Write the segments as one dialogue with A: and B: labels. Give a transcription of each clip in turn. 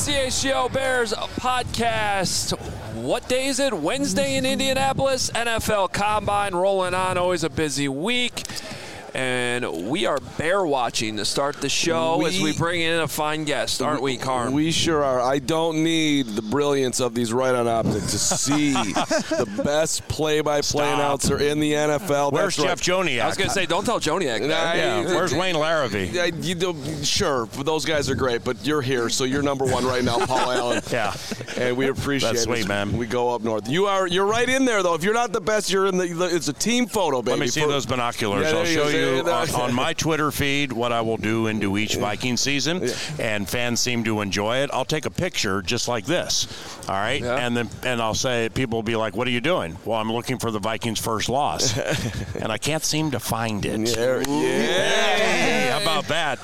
A: CHGO Bears podcast. What day is it? Wednesday in Indianapolis. NFL Combine rolling on. Always a busy week. And we are bear watching to start the show as we bring in a fine guest, aren't we, Carm?
B: We sure are. I don't need the brilliance of these Right On Optics to see the best play-by-play announcer in the NFL.
C: Where's Jeff Joniak?
A: I was going to say, don't tell Joniak.
C: Where's Wayne Larrivee?
B: Sure, those guys are great, but you're here, so you're number one right now, Paul Allen.
C: Yeah.
B: And we appreciate
C: That's
B: it.
C: Sweet, man.
B: We go up north. You're right in there, though. If you're not the best, you're in the. It's a team photo, baby.
C: Let me see those binoculars.
B: Yeah,
C: I'll show you on my
B: my
C: Twitter feed what I will do into each Viking season, and fans seem to enjoy it. I'll take a picture just like this, all right? Yeah. And I'll say, people will be like, what are you doing? Well, I'm looking for the Vikings' first loss, and I can't seem to find it.
B: Yeah.
C: Hey, how about that?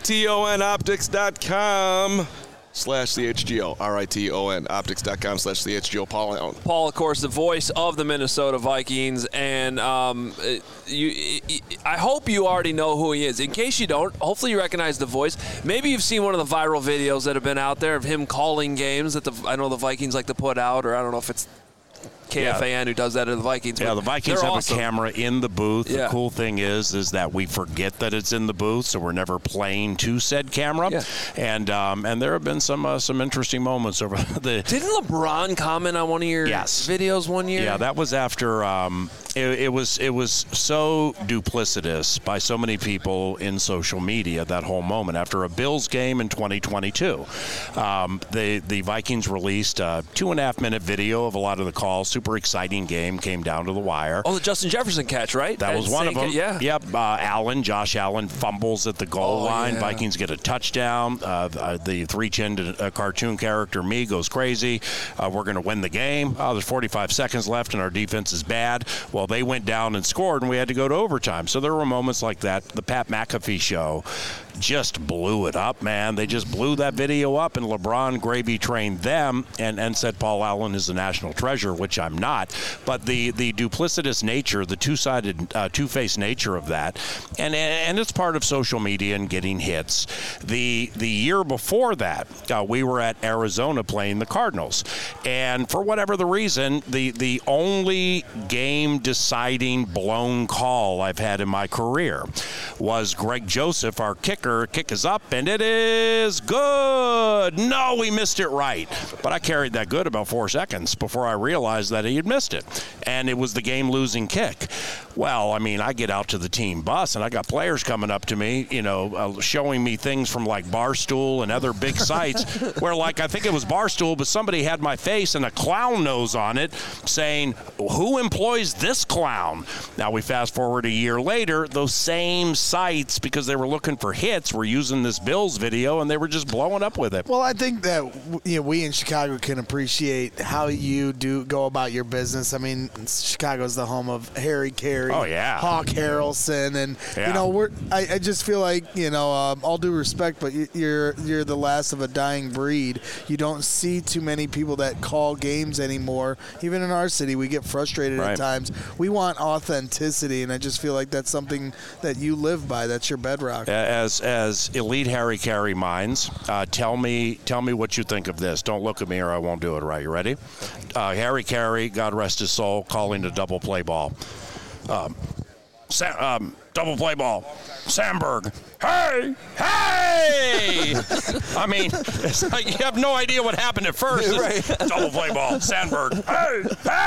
B: RITONoptics.com/CHGO. RITONoptics.com/CHGO. Paul Allen.
A: Paul, of course, the voice of the Minnesota Vikings, and I hope you already know who he is. In case you don't, hopefully you recognize the voice. Maybe you've seen one of the viral videos that have been out there of him calling games that I know the Vikings like to put out, or I don't know if it's KFAN who does that at the Vikings.
C: Yeah, the Vikings have awesome. A camera in the booth.
A: Yeah.
C: The cool thing is that we forget that it's in the booth, so we're never playing to said camera. Yeah. And there have been some interesting moments over the.
A: Didn't LeBron comment on one of your videos one year?
C: Yeah, that was after. It was so duplicitous by so many people in social media, that whole moment after a Bills game in 2022. The Vikings released a 2.5-minute video of a lot of the calls. Super exciting game, came down to the wire.
A: Oh, the Justin Jefferson catch, right?
C: That was one of them.
A: Yep.
C: Josh Allen fumbles at the goal line. Yeah. Vikings get a touchdown. The three-chinned cartoon character, me, goes crazy. We're going to win the game. There's 45 seconds left, and our defense is bad. Well, they went down and scored, and we had to go to overtime. So there were moments like that. The Pat McAfee show just blew it up, man. They just blew that video up, and LeBron gravy trained them and said Paul Allen is a national treasure, which I'm not. But the duplicitous nature, the two-sided, two-faced nature of that, and it's part of social media and getting hits. The year before that, we were at Arizona playing the Cardinals, and for whatever the reason, the only game-deciding blown call I've had in my career was Greg Joseph, our kicker. Kick is up, and it is good. No, we missed it right. But I carried that good about 4 seconds before I realized that he had missed it. And it was the game-losing kick. Well, I mean, I get out to the team bus, and I got players coming up to me, showing me things from, like, Barstool and other big sites where, like, I think it was Barstool, but somebody had my face and a clown nose on it saying, who employs this clown? Now, we fast forward a year later, those same sites, because they were looking for hits, were using this Bills video, and they were just blowing up with it.
D: Well, I think that we in Chicago can appreciate how you do go about your business. I mean, Chicago's the home of Harry Carey, Hawk Harrelson, and I just feel like all due respect, but you're the last of a dying breed. You don't see too many people that call games anymore. Even in our city, we get frustrated at times. We want authenticity, and I just feel like that's something that you live by. That's your bedrock.
C: As elite Harry Carey minds, tell me what you think of this. Don't look at me or I won't do it right. You ready? Harry Carey, God rest his soul, calling a double play ball. Double play ball. Sandberg. Hey! I mean, it's like you have no idea what happened at first. Right. Double play ball. Sandberg. Hey!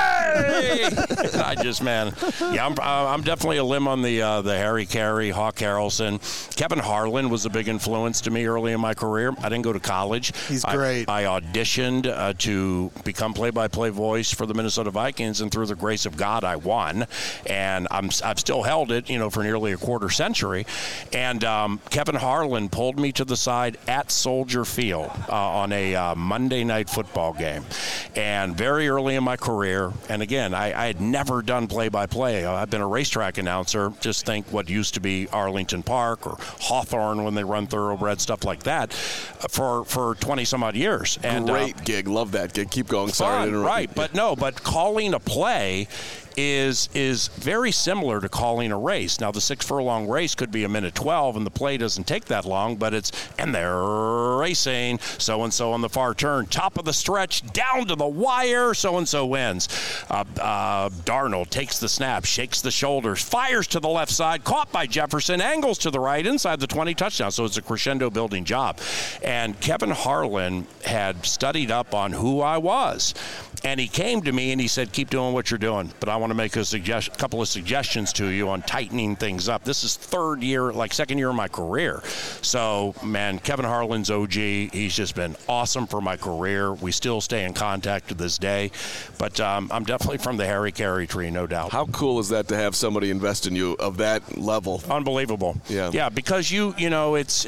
C: I just, man. Yeah, I'm definitely a limb on the Harry Carey, Hawk Harrelson. Kevin Harlan was a big influence to me early in my career. I didn't go to college.
D: He's great.
C: I auditioned to become play-by-play voice for the Minnesota Vikings, and through the grace of God, I won. And I've still held it, for nearly a quarter century. And Kevin Harlan pulled me to the side at Soldier Field on a Monday night football game. And very early in my career, and again, I had never done play-by-play. I've been a racetrack announcer. Just think what used to be Arlington Park or Hawthorne when they run thoroughbred, stuff like that, for 20-some-odd years. And
B: great gig. Love that gig. Keep going. Sorry to interrupt.
C: Right. But calling a play is very similar to calling a race. Now, the 6-furlong race could be a minute 12, and the play doesn't take that long, but and they're racing. So-and-so on the far turn, top of the stretch, down to the wire, so-and-so wins. Darnold takes the snap, shakes the shoulders, fires to the left side, caught by Jefferson, angles to the right, inside the 20, touchdown. So it's a crescendo building job. And Kevin Harlan had studied up on who I was. And he came to me and he said, keep doing what you're doing, but I want to make a couple of suggestions to you on tightening things up. This is second year of my career. So, man, Kevin Harlan's OG. He's just been awesome for my career. We still stay in contact to this day. But I'm definitely from the Harry Carey tree, no doubt.
B: How cool is that to have somebody invest in you of that level?
C: Unbelievable. Yeah, because you know, it's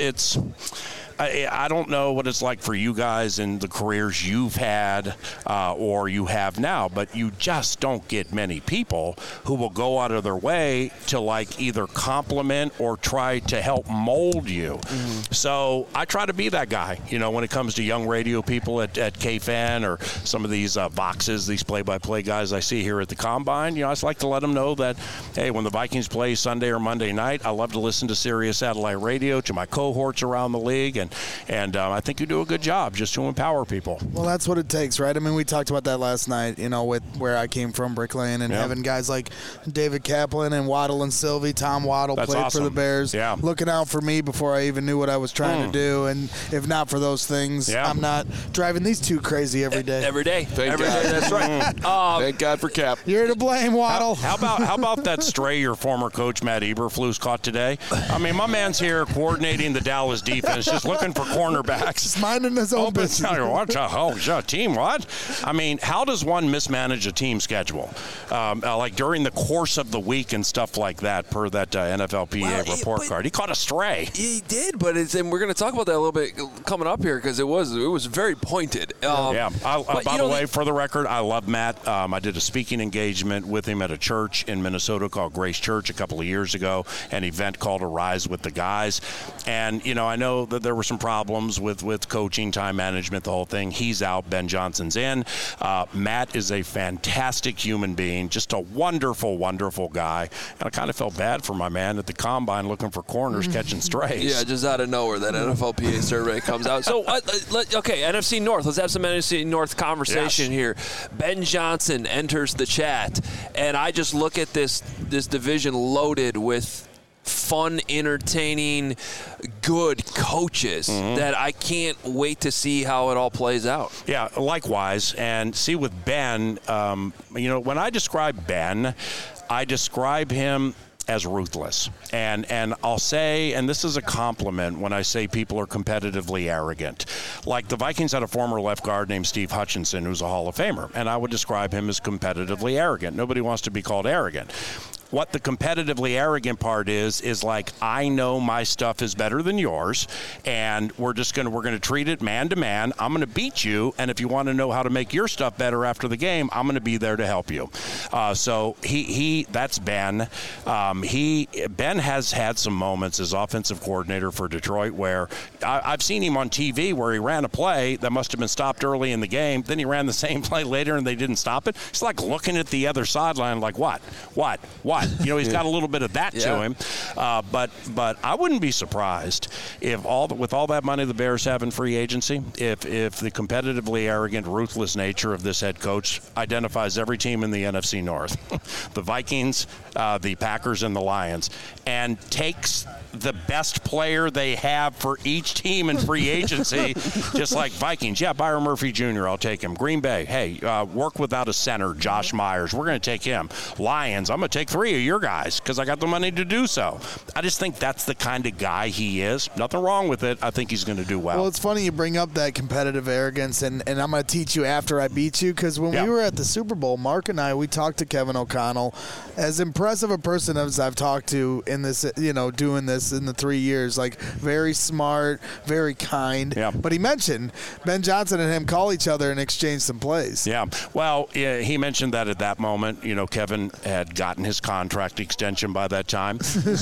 C: I don't know what it's like for you guys in the careers you've had or you have now, but you just don't get many people who will go out of their way to either compliment or try to help mold you. So I try to be that guy, when it comes to young radio people at KFan or some of these boxes, these play-by-play guys I see here at the Combine. I just like to let them know that, hey, when the Vikings play Sunday or Monday night, I love to listen to Sirius Satellite Radio, to my cohorts around the league, and I think you do a good job just to empower people.
D: Well, that's what it takes, right? I mean, we talked about that last night, with where I came from, Brick Lane, and having guys like David Kaplan and Waddle and Sylvie. Tom Waddle played awesome for the Bears, looking out for me before I even knew what I was trying to do. And if not for those things, I'm not driving these two crazy every day.
A: Every day.
B: Thank God.
A: That's right.
B: Thank God for Cap.
D: You're to blame, Waddle.
C: How about that stray your former coach Matt Eberflus caught today? I mean, my man's here coordinating the Dallas defense, just looking for cornerbacks.
D: Just minding his own business.
C: What the team? What? I mean, how does one mismanage a team schedule? During the course of the week and stuff like that, per that NFLPA report card. He caught a stray.
A: He did, but and we're going to talk about that a little bit coming up here because it was very pointed.
C: By the way, for the record, I love Matt. I did a speaking engagement with him at a church in Minnesota called Grace Church a couple of years ago, an event called Arise with the Guys. And, I know that there were some problems with coaching, time management, the whole thing. He's out. Ben Johnson's in. Matt is a fantastic human being, just a wonderful, wonderful guy. And I kind of felt bad for my man at the Combine looking for corners, catching strays.
A: Yeah, just out of nowhere, that NFLPA survey comes out. So, okay, NFC North. Let's have some NFC North conversation here. Ben Johnson enters the chat, and I just look at this division loaded with fun, entertaining, good coaches that I can't wait to see how it all plays out.
C: Yeah, likewise. And see with Ben, when I describe Ben, I describe him as ruthless. And I'll say, and this is a compliment when I say people are competitively arrogant. Like the Vikings had a former left guard named Steve Hutchinson who's a Hall of Famer, and I would describe him as competitively arrogant. Nobody wants to be called arrogant. What the competitively arrogant part is like, I know my stuff is better than yours, and we're going to treat it man to man. I'm going to beat you, and if you want to know how to make your stuff better after the game, I'm going to be there to help you. So that's Ben. Ben has had some moments as offensive coordinator for Detroit where I've seen him on TV where he ran a play that must have been stopped early in the game. Then he ran the same play later and they didn't stop it. It's like looking at the other sideline like, what? He's got a little bit of that to him. But I wouldn't be surprised if with all that money the Bears have in free agency, if the competitively arrogant, ruthless nature of this head coach identifies every team in the NFC North, the Vikings, the Packers, and the Lions, and takes the best player they have for each team in free agency, just like Vikings. Yeah, Byron Murphy Jr., I'll take him. Green Bay, hey, work without a center, Josh Myers. We're going to take him. Lions, I'm going to take 3 of your guys because I got the money to do so. I just think that's the kind of guy he is. Nothing wrong with it. I think he's going to do well.
D: Well, it's funny you bring up that competitive arrogance, and I'm going to teach you after I beat you, because when we were at the Super Bowl, Mark and I, we talked to Kevin O'Connell. As impressive a person as I've talked to in this, doing this in the 3 years, like very smart, very kind.
C: Yeah.
D: But he mentioned Ben Johnson and him call each other and exchange some plays.
C: Yeah. Well, he mentioned that at that moment, Kevin had gotten his contract extension by that time. So when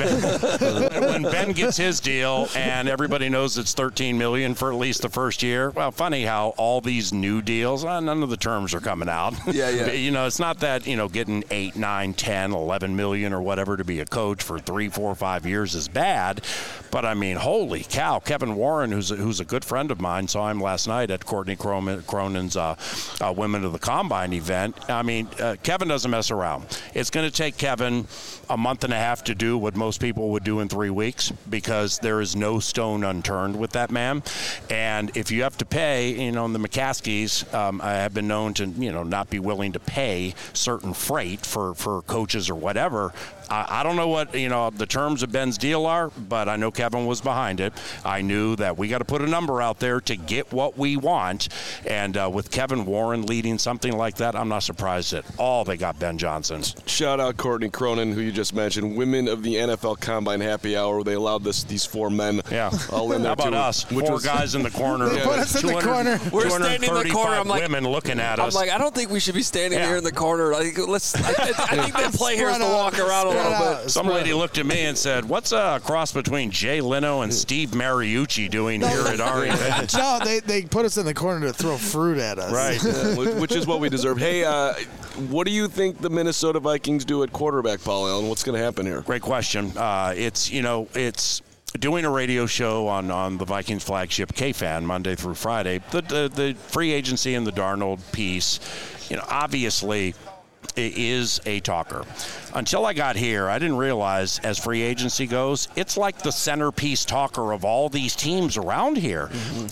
C: when Ben gets his deal, and everybody knows it's $13 million for at least the first year. Well, funny how all these new deals, none of the terms are coming out.
B: Yeah.
C: It's not that getting 8, 9, 10, 11 million or whatever to be a coach for 3, 4, 5 years is bad. But I mean, holy cow! Kevin Warren, who's a good friend of mine, saw him last night at Courtney Cronin's Women of the Combine event. I mean, Kevin doesn't mess around. It's going to take Kevin a month and a half to do what most people would do in 3 weeks, because there is no stone unturned with that man. And if you have to pay, the McCaskies I have been known to, not be willing to pay certain freight for coaches or whatever. I don't know what, the terms of Ben's deal are, but I know Kevin was behind it. I knew that we got to put a number out there to get what we want. And with Kevin Warren leading something like that, I'm not surprised at all they got Ben Johnson.
B: Shout out Courtney Cronin, who you just mentioned, Women of the NFL Combine Happy Hour, where they allowed these 4 men all in there.
C: How about
B: too,
C: us? 4 guys in the corner.
D: Put us in the corner.
A: We're standing in the corner. I'm like,
C: women looking at us.
A: I'm like, I don't think we should be standing here in the corner. I think the play here is to walk around a little bit.
C: Some lady looked at me and said, "What's a cross between Jay Leno and Steve Mariucci doing here at our event?"
D: No, they put us in the corner to throw fruit at us.
C: Right.
B: Which is what we deserve. Hey, what do you think the Minnesota Vikings do at quarterback, Paul Allen? What's going to happen here?
C: Great question. It's doing a radio show on the Vikings flagship KFan Monday through Friday. The free agency and the Darnold piece, obviously it is a talker. Until I got here, I didn't realize, as free agency goes, it's like the centerpiece talker of all these teams around here.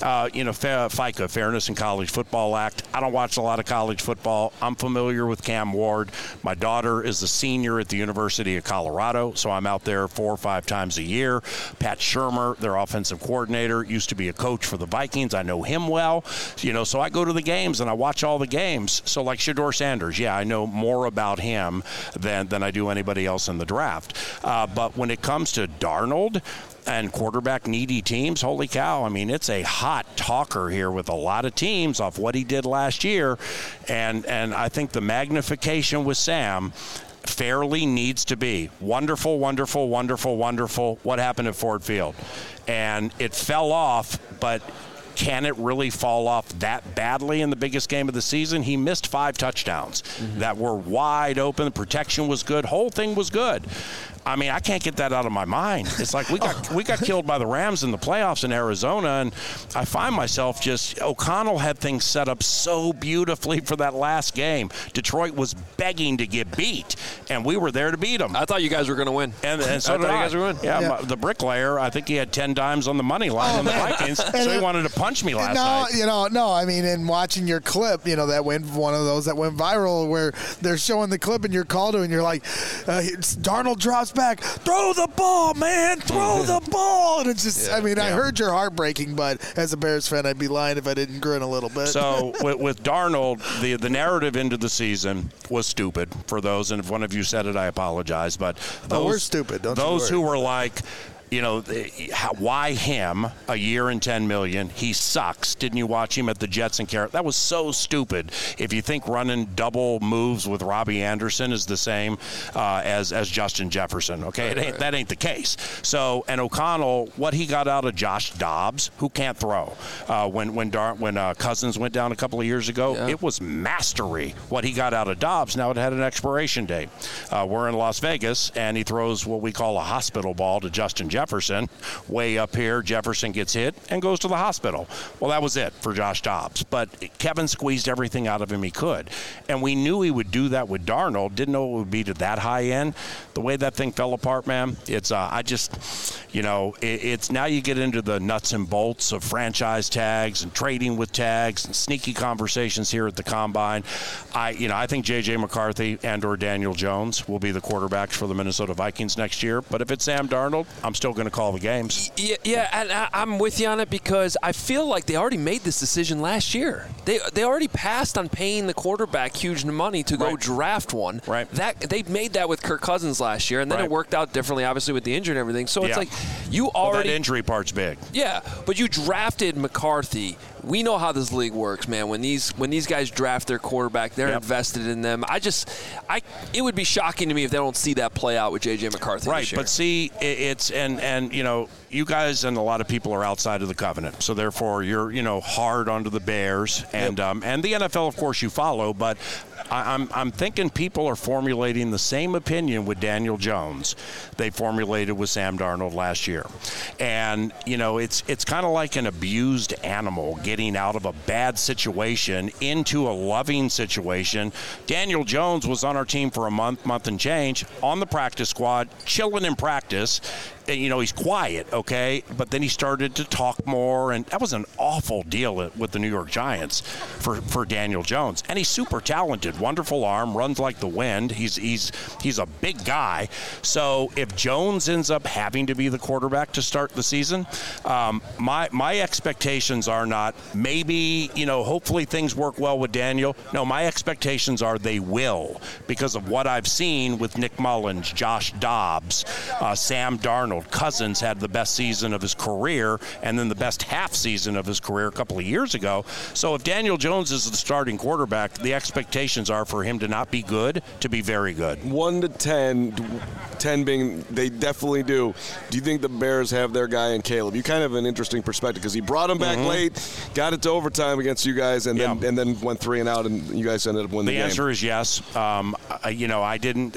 C: FICA, Fairness in College Football Act. I don't watch a lot of college football. I'm familiar with Cam Ward. My daughter is a senior at the University of Colorado, so I'm out there 4 or 5 times a year. Pat Shurmur, their offensive coordinator, used to be a coach for the Vikings. I know him well. So I go to the games and I watch all the games. So like Shedeur Sanders, I know more about him than I do anybody else in the draft. But when it comes to Darnold and quarterback needy teams, holy cow, I mean, it's a hot talker here with a lot of teams off what he did last year. And I think the magnification with Sam fairly needs to be wonderful, wonderful, wonderful, wonderful. What happened at Ford Field? And it fell off, but can it really fall off that badly in the biggest game of the season? He missed 5 touchdowns that were wide open. The protection was good. Whole thing was good. I mean, I can't get that out of my mind. It's like we got killed by the Rams in the playoffs in Arizona, and I find myself O'Connell had things set up so beautifully for that last game. Detroit was begging to get beat, and we were there to beat them.
A: I thought you guys were going to win.
C: And so did I. You guys were winning. Yeah, the bricklayer, I think he had 10 dimes on the money line on the Vikings, so he wanted to punch me last night.
D: No, I mean, in watching your clip, that went one of those that went viral where they're showing the clip and you're called to and you're like, Darnold drops back, throw the ball, man, throw the ball. And it's just, I heard your heart breaking, but as a Bears fan, I'd be lying if I didn't grin a little bit.
C: So with Darnold, the narrative into the season was stupid for those, and if one of you said it, I apologize. But
D: we're stupid.
C: Those who were like, why him? A year and $10 million. He sucks. Didn't you watch him at the Jets and Carolina? That was so stupid. If you think running double moves with Robbie Anderson is the same as Justin Jefferson, okay, that ain't the case. So, and O'Connell, what he got out of Josh Dobbs, who can't throw, when Cousins went down a couple of years ago, it was mastery. What he got out of Dobbs. Now it had an expiration date. We're in Las Vegas, and he throws what we call a hospital ball to Justin Jefferson. Way up here, Jefferson gets hit and goes to the hospital. Well, that was it for Josh Dobbs. But Kevin squeezed everything out of him he could. And we knew he would do that with Darnold. Didn't know it would be to that high end. The way that thing fell apart, man, it's, it's now you get into the nuts and bolts of franchise tags and trading with tags and sneaky conversations here at the Combine. I think J.J. McCarthy and or Daniel Jones will be the quarterbacks for the Minnesota Vikings next year. But if it's Sam Darnold, I'm still going to call the games.
A: Yeah, and I'm with you on it because I feel like they already made this decision last year. They already passed on paying the quarterback huge money to go draft one.
C: Right.
A: They made that with Kirk Cousins last year, and then it worked out differently, obviously, with the injury and everything. So it's like you already
C: that injury part's big.
A: Yeah, but you drafted McCarthy we know how this league works, man. When these guys draft their quarterback, they're invested in them. It would be shocking to me if they don't see that play out with J.J. McCarthy
C: right,
A: this year.
C: But see, it's and you know, you guys and a lot of people are outside of the covenant, so therefore you're hard onto the Bears and the NFL, of course, you follow, but I'm thinking people are formulating the same opinion with Daniel Jones they formulated with Sam Darnold last year. And, it's kind of like an abused animal getting out of a bad situation into a loving situation. Daniel Jones was on our team for a month and change, on the practice squad, chilling in practice. He's quiet, okay? But then he started to talk more, and that was an awful deal with the New York Giants for Daniel Jones. And he's super talented, wonderful arm, runs like the wind. He's a big guy. So if Jones ends up having to be the quarterback to start the season, my expectations are not maybe, hopefully things work well with Daniel. No, my expectations are they will, because of what I've seen with Nick Mullins, Josh Dobbs, Sam Darnold. Cousins had the best season of his career and then the best half season of his career a couple of years ago. So if Daniel Jones is the starting quarterback, the expectations are for him to not be good, to be very good.
B: 1 to 10, 10 being they definitely do. Do you think the Bears have their guy in Caleb? You kind of have an interesting perspective because he brought him back late, got it to overtime against you guys, and then went 3 and out, and you guys ended up winning the game.
C: The answer is yes. I didn't.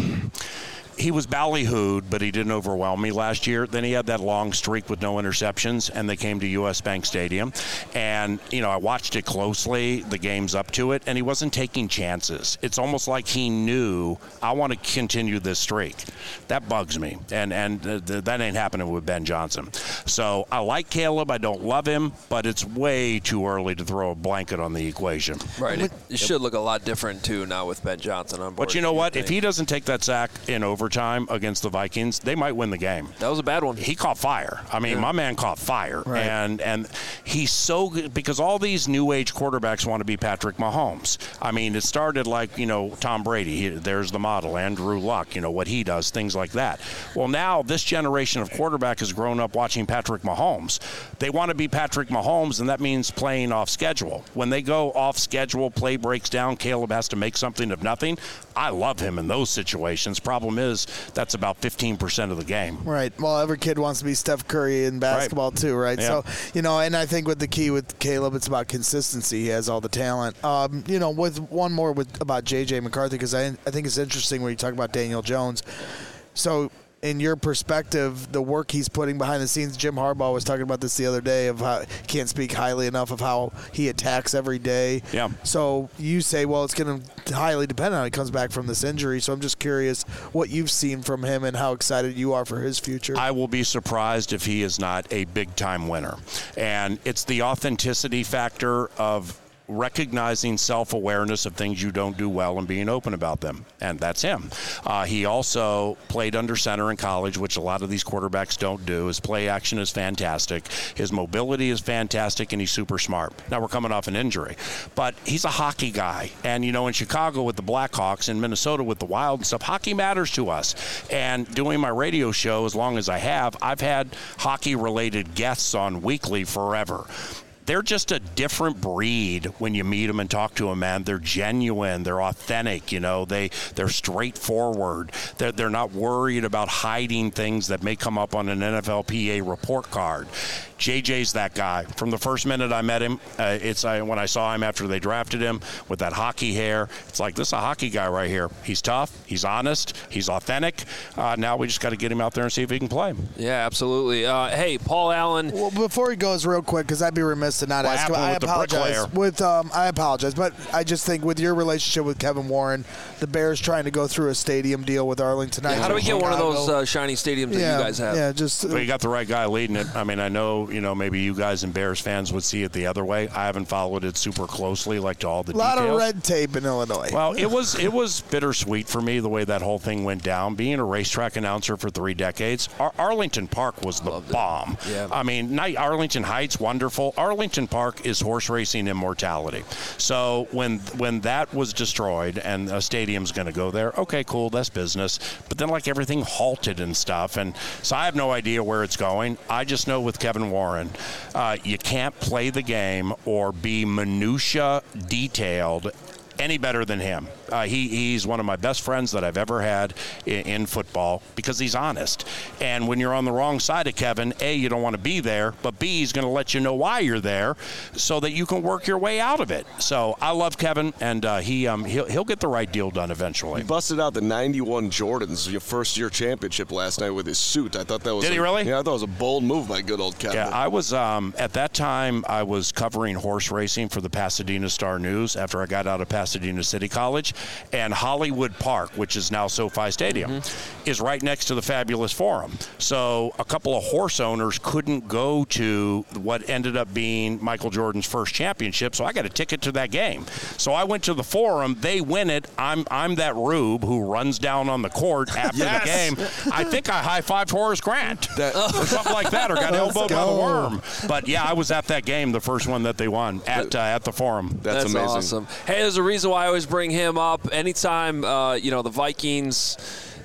C: He was ballyhooed, but he didn't overwhelm me last year. Then he had that long streak with no interceptions, and they came to U.S. Bank Stadium. And, I watched it closely, the games up to it, and he wasn't taking chances. It's almost like he knew, I want to continue this streak. That bugs me, and that ain't happening with Ben Johnson. So I like Caleb. I don't love him, but it's way too early to throw a blanket on the equation.
A: Right. It should look a lot different, too, now with Ben Johnson on board.
C: But you know what? If he doesn't take that sack in overtime against the Vikings, they might win the game.
A: That was a bad one.
C: He caught fire. I mean, my man caught fire.
D: Right.
C: And he's so good because all these new age quarterbacks want to be Patrick Mahomes. I mean, it started like, Tom Brady. There's the model. Andrew Luck, what he does, things like that. Well, now this generation of quarterback has grown up watching Patrick Mahomes. They want to be Patrick Mahomes, and that means playing off schedule. When they go off schedule, play breaks down, Caleb has to make something of nothing. I love him in those situations. Problem is, that's about 15% of the game.
D: Right. Well, every kid wants to be Steph Curry in basketball too, right?
C: Yeah.
D: So, and I think with the key with Caleb, it's about consistency. He has all the talent. With one more about J.J. McCarthy, because I think it's interesting when you talk about Daniel Jones. So, in your perspective, the work he's putting behind the scenes, Jim Harbaugh was talking about this the other day of how he can't speak highly enough of how he attacks every day.
C: Yeah.
D: So you say, well, it's going to highly depend on how he comes back from this injury. So I'm just curious what you've seen from him and how excited you are for his future.
C: I will be surprised if he is not a big-time winner. And it's the authenticity factor of recognizing self-awareness of things you don't do well and being open about them. And that's him. He also played under center in college, which a lot of these quarterbacks don't do. His play action is fantastic. His mobility is fantastic, and he's super smart. Now, we're coming off an injury. But he's a hockey guy. And, in Chicago with the Blackhawks, in Minnesota with the Wild and stuff, hockey matters to us. And doing my radio show as long as I have, I've had hockey-related guests on weekly forever. They're just a different breed when you meet them and talk to them, man. They're genuine. They're authentic, They're straightforward. They're not worried about hiding things that may come up on an NFLPA report card. JJ's that guy. From the first minute I met him, when I saw him after they drafted him with that hockey hair, it's like, this is a hockey guy right here. He's tough. He's honest. He's authentic. Now we just got to get him out there and see if he can play.
A: Yeah, absolutely. Hey, Paul Allen.
D: Well, before he goes, real quick, because I'd be remiss to not ask him. I apologize. I apologize, but I just think with your relationship with Kevin Warren, the Bears trying to go through a stadium deal with Arlington.
A: Yeah, how do we get one of those shiny stadiums that you guys have?
D: Yeah, just.
C: Well, you got the right guy leading it. I mean, I know, maybe you guys and Bears fans would see it the other way. I haven't followed it super closely, like to all the details.
D: A lot of red tape in Illinois.
C: Well, it was bittersweet for me the way that whole thing went down. Being a racetrack announcer for 3 decades, Arlington Park was the bomb.
A: Yeah.
C: I mean, Arlington Heights, wonderful. Arlington Park is horse racing immortality. So when that was destroyed and a stadium's going to go there, okay, cool, that's business. But then like everything halted and stuff, and so I have no idea where it's going. I just know with Kevin Warren. You can't play the game or be minutia detailed any better than him. He's one of my best friends that I've ever had in football because he's honest. And when you're on the wrong side of Kevin, A, you don't want to be there, but B, he's going to let you know why you're there so that you can work your way out of it. So I love Kevin, and he'll get the right deal done eventually.
B: He busted out the 91 Jordans, your first-year championship last night with his suit. I thought that was
C: Did he really?
B: Yeah, I thought it was a bold move by good old Kevin.
C: Yeah, I was at that time I was covering horse racing for the Pasadena Star News after I got out of Pasadena City College, and Hollywood Park, which is now SoFi Stadium, is right next to the Fabulous Forum. So a couple of horse owners couldn't go to what ended up being Michael Jordan's first championship, so I got a ticket to that game. So I went to the Forum. They win it. I'm that rube who runs down on the court after the game. I think I high-fived Horace Grant or something like that, or got elbowed by the worm. But yeah, I was at that game, the first one that they won at the Forum.
B: That's amazing.
A: Awesome. Hey, there's a reason why I always bring him up. Anytime, the Vikings,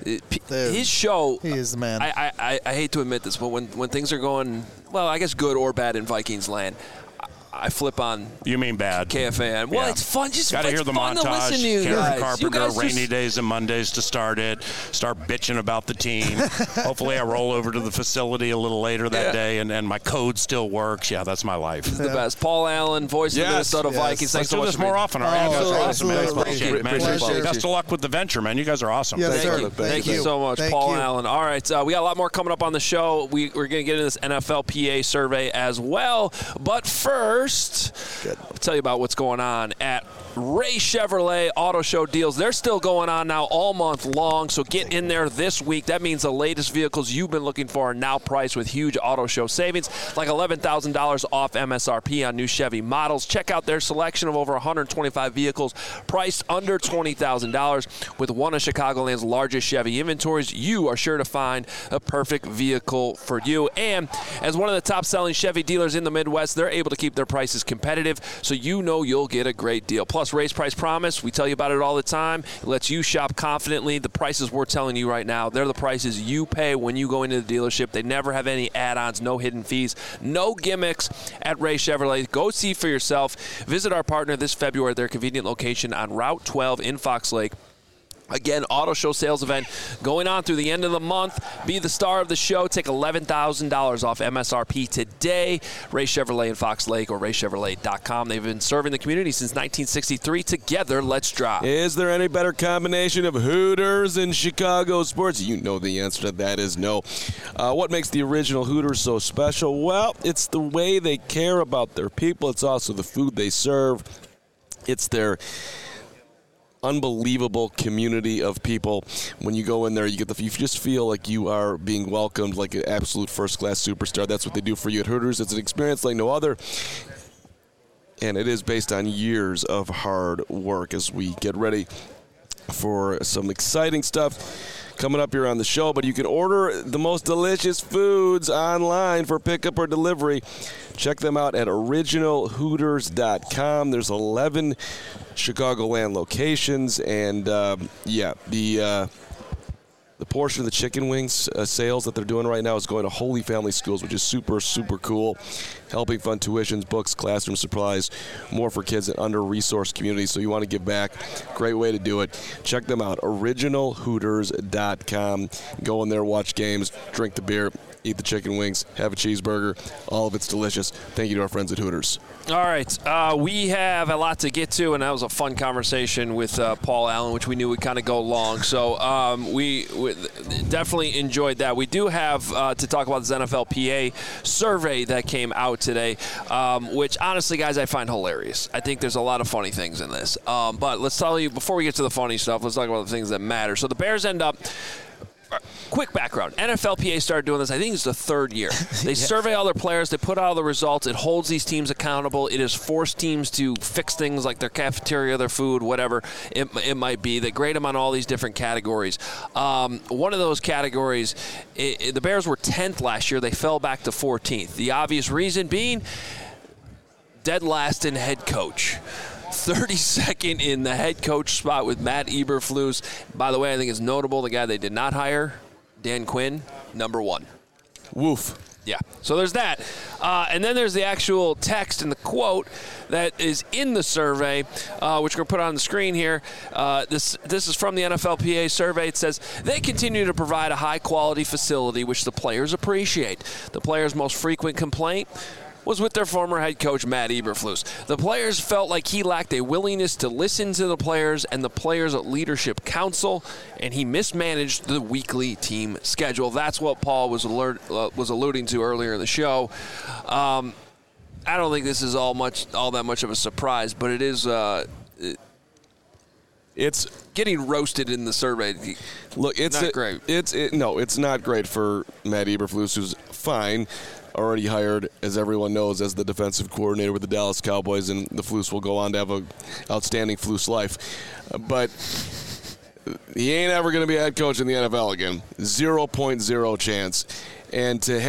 A: his show.
D: He is the man.
A: I hate to admit this, but when things are going, well, I guess good or bad in Vikings land, I flip on.
C: You mean bad?
A: KFAN. Well,
C: yeah.
A: It's fun. Just
C: got to hear the montage. Karen Carpenter, rainy days and Mondays to start it. Start bitching about the team. Hopefully, I roll over to the facility a little later that day, and my code still works. Yeah, that's my life.
A: This is the best. Paul Allen, voice of the Minnesota Vikings. Thanks so much.
C: Let's do this more often. All right, you guys are awesome, man. Appreciate it, man.
B: Appreciate it.
C: Best of luck with the venture, man. You guys are awesome.
D: Yes,
A: Thank you so much, Paul Allen. All right, we got a lot more coming up on the show. We're going to get into this NFLPA survey as well. But first, I'll tell you about what's going on at Ray Chevrolet Auto Show deals. They're still going on now all month long, so get in there this week. That means the latest vehicles you've been looking for are now priced with huge auto show savings, like $11,000 off MSRP on new Chevy models. Check out their selection of over 125 vehicles priced under $20,000. With one of Chicagoland's largest Chevy inventories, you are sure to find a perfect vehicle for you. And as one of the top-selling Chevy dealers in the Midwest, they're able to keep their prices competitive, so you know you'll get a great deal. Plus, Raise Price Promise, we tell you about it all the time. It lets you shop confidently. The prices we're telling you right now, they're the prices you pay when you go into the dealership. They never have any add-ons, no hidden fees, no gimmicks at Ray Chevrolet. Go see for yourself. Visit our partner this February at their convenient location on Route 12 in Fox Lake. Again, auto show sales event going on through the end of the month. Be the star of the show. Take $11,000 off MSRP today. Ray Chevrolet in Fox Lake or raychevrolet.com. They've been serving the community since 1963. Together, let's drive.
B: Is there any better combination of Hooters and Chicago sports? You know the answer to that is no. What makes the original Hooters so special? Well, it's the way they care about their people. It's also the food they serve. It's their unbelievable community of people. When you go in there, you just feel like you are being welcomed like an absolute first-class superstar. That's what they do for you at Hooters. It's an experience like no other, and it is based on years of hard work as we get ready for some exciting stuff coming up here on the show. But you can order the most delicious foods online for pickup or delivery. Check them out at originalhooters.com. There's 11 Chicagoland locations, and the portion of the chicken wings sales that they're doing right now is going to Holy Family Schools, which is super, super cool. Helping fund tuitions, books, classroom supplies, more for kids in under-resourced communities. So you want to give back. Great way to do it. Check them out, originalhooters.com. Go in there, watch games, drink the beer, eat the chicken wings, have a cheeseburger. All of it's delicious. Thank you to our friends at Hooters.
A: All right. We have a lot to get to, and that was a fun conversation with Paul Allen, which we knew would kind of go long. So we definitely enjoyed that. We do have to talk about this NFLPA survey that came out today, which honestly, guys, I find hilarious. I think there's a lot of funny things in this. But let's tell you, before we get to the funny stuff, let's talk about the things that matter. So the Bears end up... Quick background. NFLPA started doing this, I think it's the third year. They survey all their players. They put out all the results. It holds these teams accountable. It has forced teams to fix things like their cafeteria, their food, whatever it might be. They grade them on all these different categories. One of those categories, the Bears were 10th last year. They fell back to 14th. The obvious reason being dead last in head coach. 32nd in the head coach spot with Matt Eberflus. By the way, I think it's notable the guy they did not hire, Dan Quinn, number 1.
B: Woof.
A: Yeah, so there's that. And then there's the actual text and the quote that is in the survey, which we're going to put on the screen here. This is from the NFLPA survey. It says, they continue to provide a high-quality facility, which the players appreciate. The players' most frequent complaint was with their former head coach, Matt Eberflus. The players felt like he lacked a willingness to listen to the players and the players' leadership council, and he mismanaged the weekly team schedule. That's what Paul was alluding to earlier in the show. I don't think this is all that much of a surprise, but it is. It's getting roasted in the survey.
B: Look, it's
A: not great.
B: It's not great for Matt Eberflus, who's fine. Already hired, as everyone knows, as the defensive coordinator with the Dallas Cowboys, and the Flus will go on to have an outstanding Flus life. But he ain't ever going to be a head coach in the NFL again. 0.0 chance. And to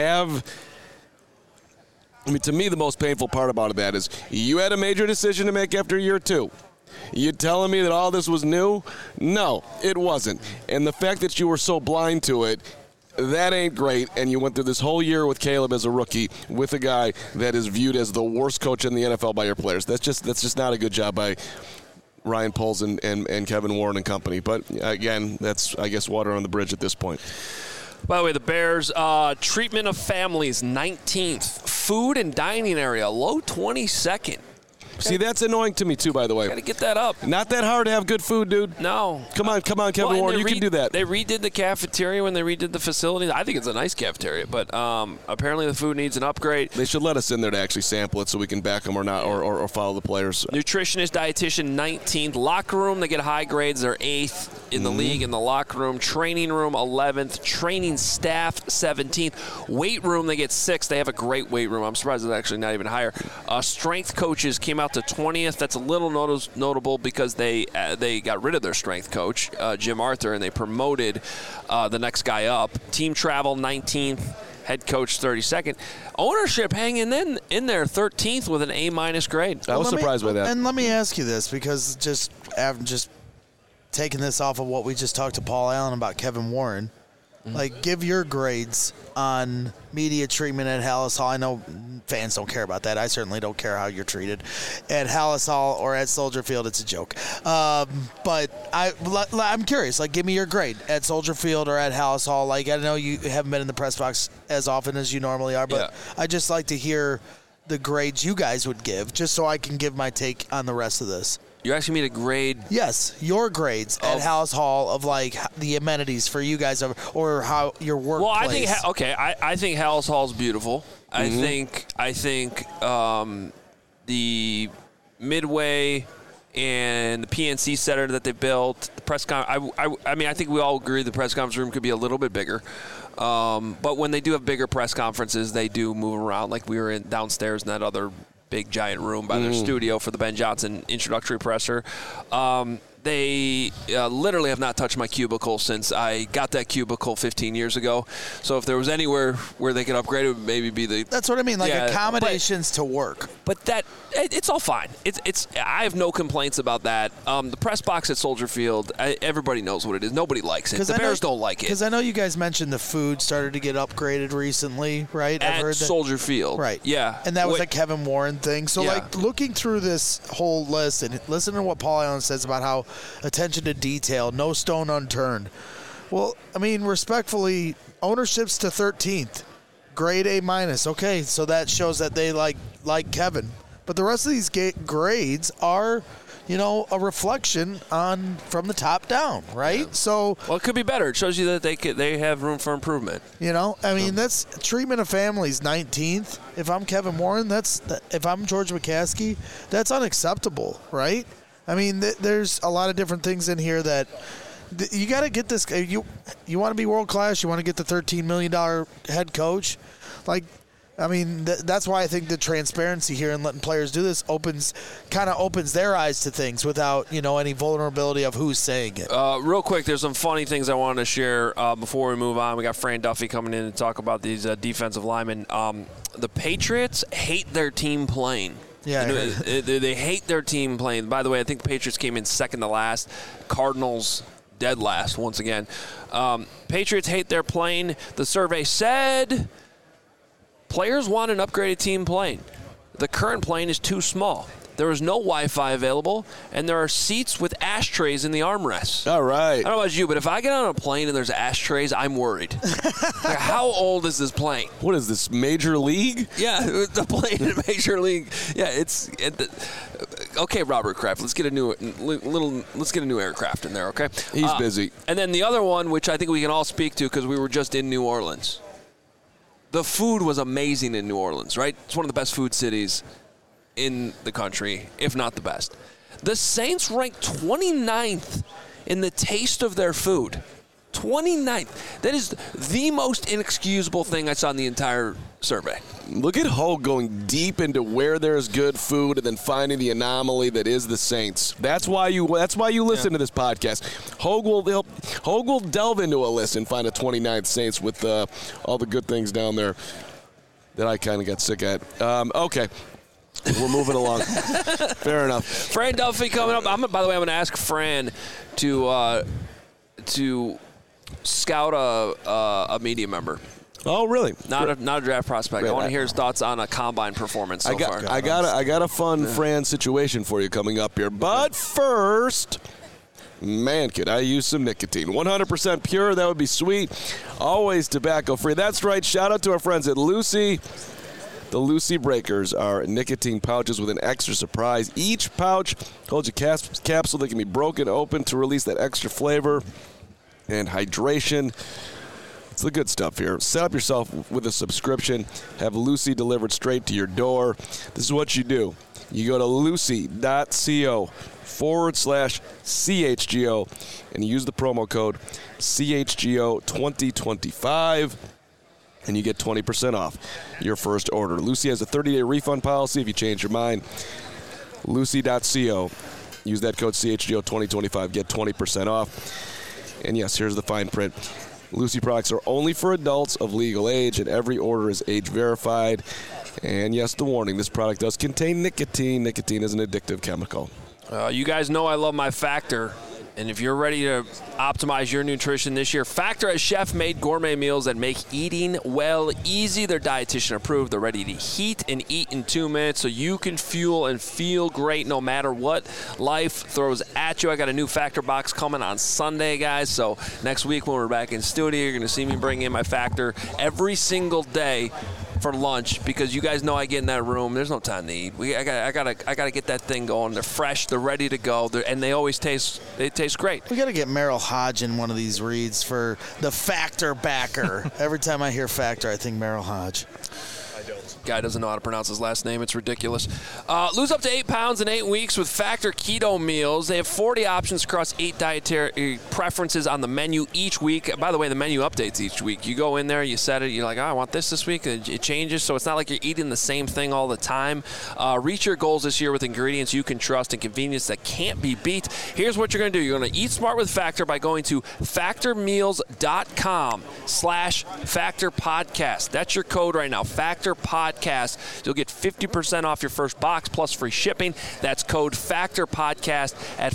B: me, the most painful part about that is you had a major decision to make after year 2. You telling me that all this was new? No, it wasn't. And the fact that you were so blind to it, that ain't great, and you went through this whole year with Caleb as a rookie with a guy that is viewed as the worst coach in the NFL by your players. That's just not a good job by Ryan Poles and Kevin Warren and company. But, again, that's, I guess, water on the bridge at this point.
A: By the way, the Bears, treatment of families, 19th. Food and dining area, low 22nd.
B: See, that's annoying to me, too, by the way.
A: Got to get that up.
B: Not that hard to have good food, dude.
A: No.
B: Come on, Kevin Warren. You can do that.
A: They redid the cafeteria when they redid the facility. I think it's a nice cafeteria, but apparently the food needs an upgrade.
B: They should let us in there to actually sample it so we can back them or not, or follow the players.
A: Nutritionist, dietitian, 19th. Locker room, they get high grades. They're 8th in the league in the locker room. Training room, 11th. Training staff, 17th. Weight room, they get 6th. They have a great weight room. I'm surprised it's actually not even higher. Strength coaches came out to 20th. That's a little notable because they got rid of their strength coach, Jim Arthur, and they promoted the next guy up. Team travel, 19th. Head coach, 32nd. Ownership hanging in there, 13th with an A- grade.
B: I was surprised by that.
D: And let me ask you this, because just taking this off of what we just talked to Paul Allen about Kevin Warren, like, give your grades on media treatment at Halas Hall. I know fans don't care about that. I certainly don't care how you're treated at Halas Hall or at Soldier Field. It's a joke. But I'm curious. Like, give me your grade at Soldier Field or at Halas Hall. Like, I know you haven't been in the press box as often as you normally are, but I just like to hear the grades you guys would give, just so I can give my take on the rest of this.
A: You're asking me to grade?
D: Yes, your grades at Halas Hall of, like, the amenities for you guys, or how your workplace.
A: Well, I think Halas Hall's beautiful. Mm-hmm. I think the Midway and the PNC Center that they built, the press I mean, I think we all agree the press conference room could be a little bit bigger. But when they do have bigger press conferences, they do move around. Like, we were downstairs in that other big giant room by their studio for the Ben Johnson introductory presser. They literally have not touched my cubicle since I got that cubicle 15 years ago. So if there was anywhere where they could upgrade, it would maybe be the...
D: That's what I mean, like accommodations to work.
A: But it's all fine. I have no complaints about that. The press box at Soldier Field, everybody knows what it is. Nobody likes it. The Bears don't like it.
D: Because I know you guys mentioned the food started to get upgraded recently, right?
A: I've heard that. Soldier Field.
D: Right.
A: Yeah.
D: And that was a Kevin Warren thing. So, like, looking through this whole list and listening to what Paul Allen says about how attention to detail, no stone unturned. Well, I mean, respectfully, ownership's to 13th. Grade A-. Okay, so that shows that they like Kevin. But the rest of these grades are, a reflection from the top down, right? Yeah. So,
A: well, it could be better. It shows you that they have room for improvement.
D: I mean, that's treatment of families, 19th. If I'm Kevin Warren, if I'm George McCaskey, that's unacceptable, right? I mean, there's a lot of different things in here that you got to get this. You want to be world class. You want to get the $13 million head coach. Like, I mean, that's why I think the transparency here and letting players do this opens their eyes to things without any vulnerability of who's saying it.
A: Real quick, there's some funny things I wanted to share before we move on. We got Fran Duffy coming in to talk about these defensive linemen. The Patriots hate their team playing.
D: Yeah,
A: they hate their team playing. By the way, I think the Patriots came in second to last. Cardinals dead last once again. Patriots hate their playing. The survey said Players want an upgraded team plane. The current plane is too small. There is no Wi-Fi available, and there are seats with ashtrays in the armrests.
B: All right.
A: I don't know about you, but if I get on a plane and there's ashtrays, I'm worried. Like, how old is this plane?
B: What is this, Major League?
A: Yeah, the plane in Major League. Yeah, okay, Robert Kraft. Let's get a new aircraft in there. Okay,
B: he's busy.
A: And then the other one, which I think we can all speak to because we were just in New Orleans. The food was amazing in New Orleans, right? It's one of the best food cities in the country, if not the best. The Saints ranked 29th in the taste of their food. 29th. That is the most inexcusable thing I saw in the entire survey.
B: Look at Hogue going deep into where there's good food and then finding the anomaly that is the Saints. That's why you listen to this podcast. Hogue will delve into a list and find a 29th Saints with all the good things down there that I kind of got sick at. Okay. We're moving along. Fair enough.
A: Fran Duffy coming up. By the way, I'm going to ask Fran to scout a media member.
B: Oh, really?
A: Not a draft prospect. Great. I want to hear his thoughts on a combine performance so far.
B: I got a fun Fran situation for you coming up here. But first, man, could I use some nicotine. 100% pure. That would be sweet. Always tobacco-free. That's right. Shout out to our friends at Lucy. The Lucy Breakers are nicotine pouches with an extra surprise. Each pouch holds a capsule that can be broken open to release that extra flavor and hydration. It's the good stuff here. Set up yourself with a subscription. Have Lucy delivered straight to your door. This is what you do. You go to lucy.co/CHGO and you use the promo code CHGO2025. And you get 20% off your first order. Lucy has a 30-day refund policy if you change your mind. Lucy.co. Use that code CHGO2025. Get 20% off. And yes, here's the fine print. Lucy products are only for adults of legal age, and every order is age verified. And yes, the warning, this product does contain nicotine. Nicotine is an addictive chemical.
A: You guys know I love my Factor. And if you're ready to optimize your nutrition this year, Factor has chef-made gourmet meals that make eating well easy. They're dietitian approved. They're ready to heat and eat in 2 minutes so you can fuel and feel great no matter what life throws at you. I got a new Factor box coming on Sunday, guys. So next week when we're back in studio, you're going to see me bring in my Factor every single day for lunch because you guys know I get in that room. There's no time to eat. I gotta get that thing going. They're fresh. They're ready to go. And they always taste great.
D: We got to get Merrill Hodge in one of these reads for the Factor backer. Every time I hear Factor, I think Merrill Hodge.
A: Guy doesn't know how to pronounce his last name. It's ridiculous. Lose up to 8 pounds in 8 weeks with Factor Keto Meals. They have 40 options across 8 dietary preferences on the menu each week. By the way, the menu updates each week. You go in there, you set it, you're like, I want this week. It changes, so it's not like you're eating the same thing all the time. Reach your goals this year with ingredients you can trust and convenience that can't be beat. Here's what you're going to do. You're going to eat smart with Factor by going to factormeals.com/Factor Podcast. That's your code right now, Factor Podcast. You'll get 50% off your first box plus free shipping. That's code Factor Podcast at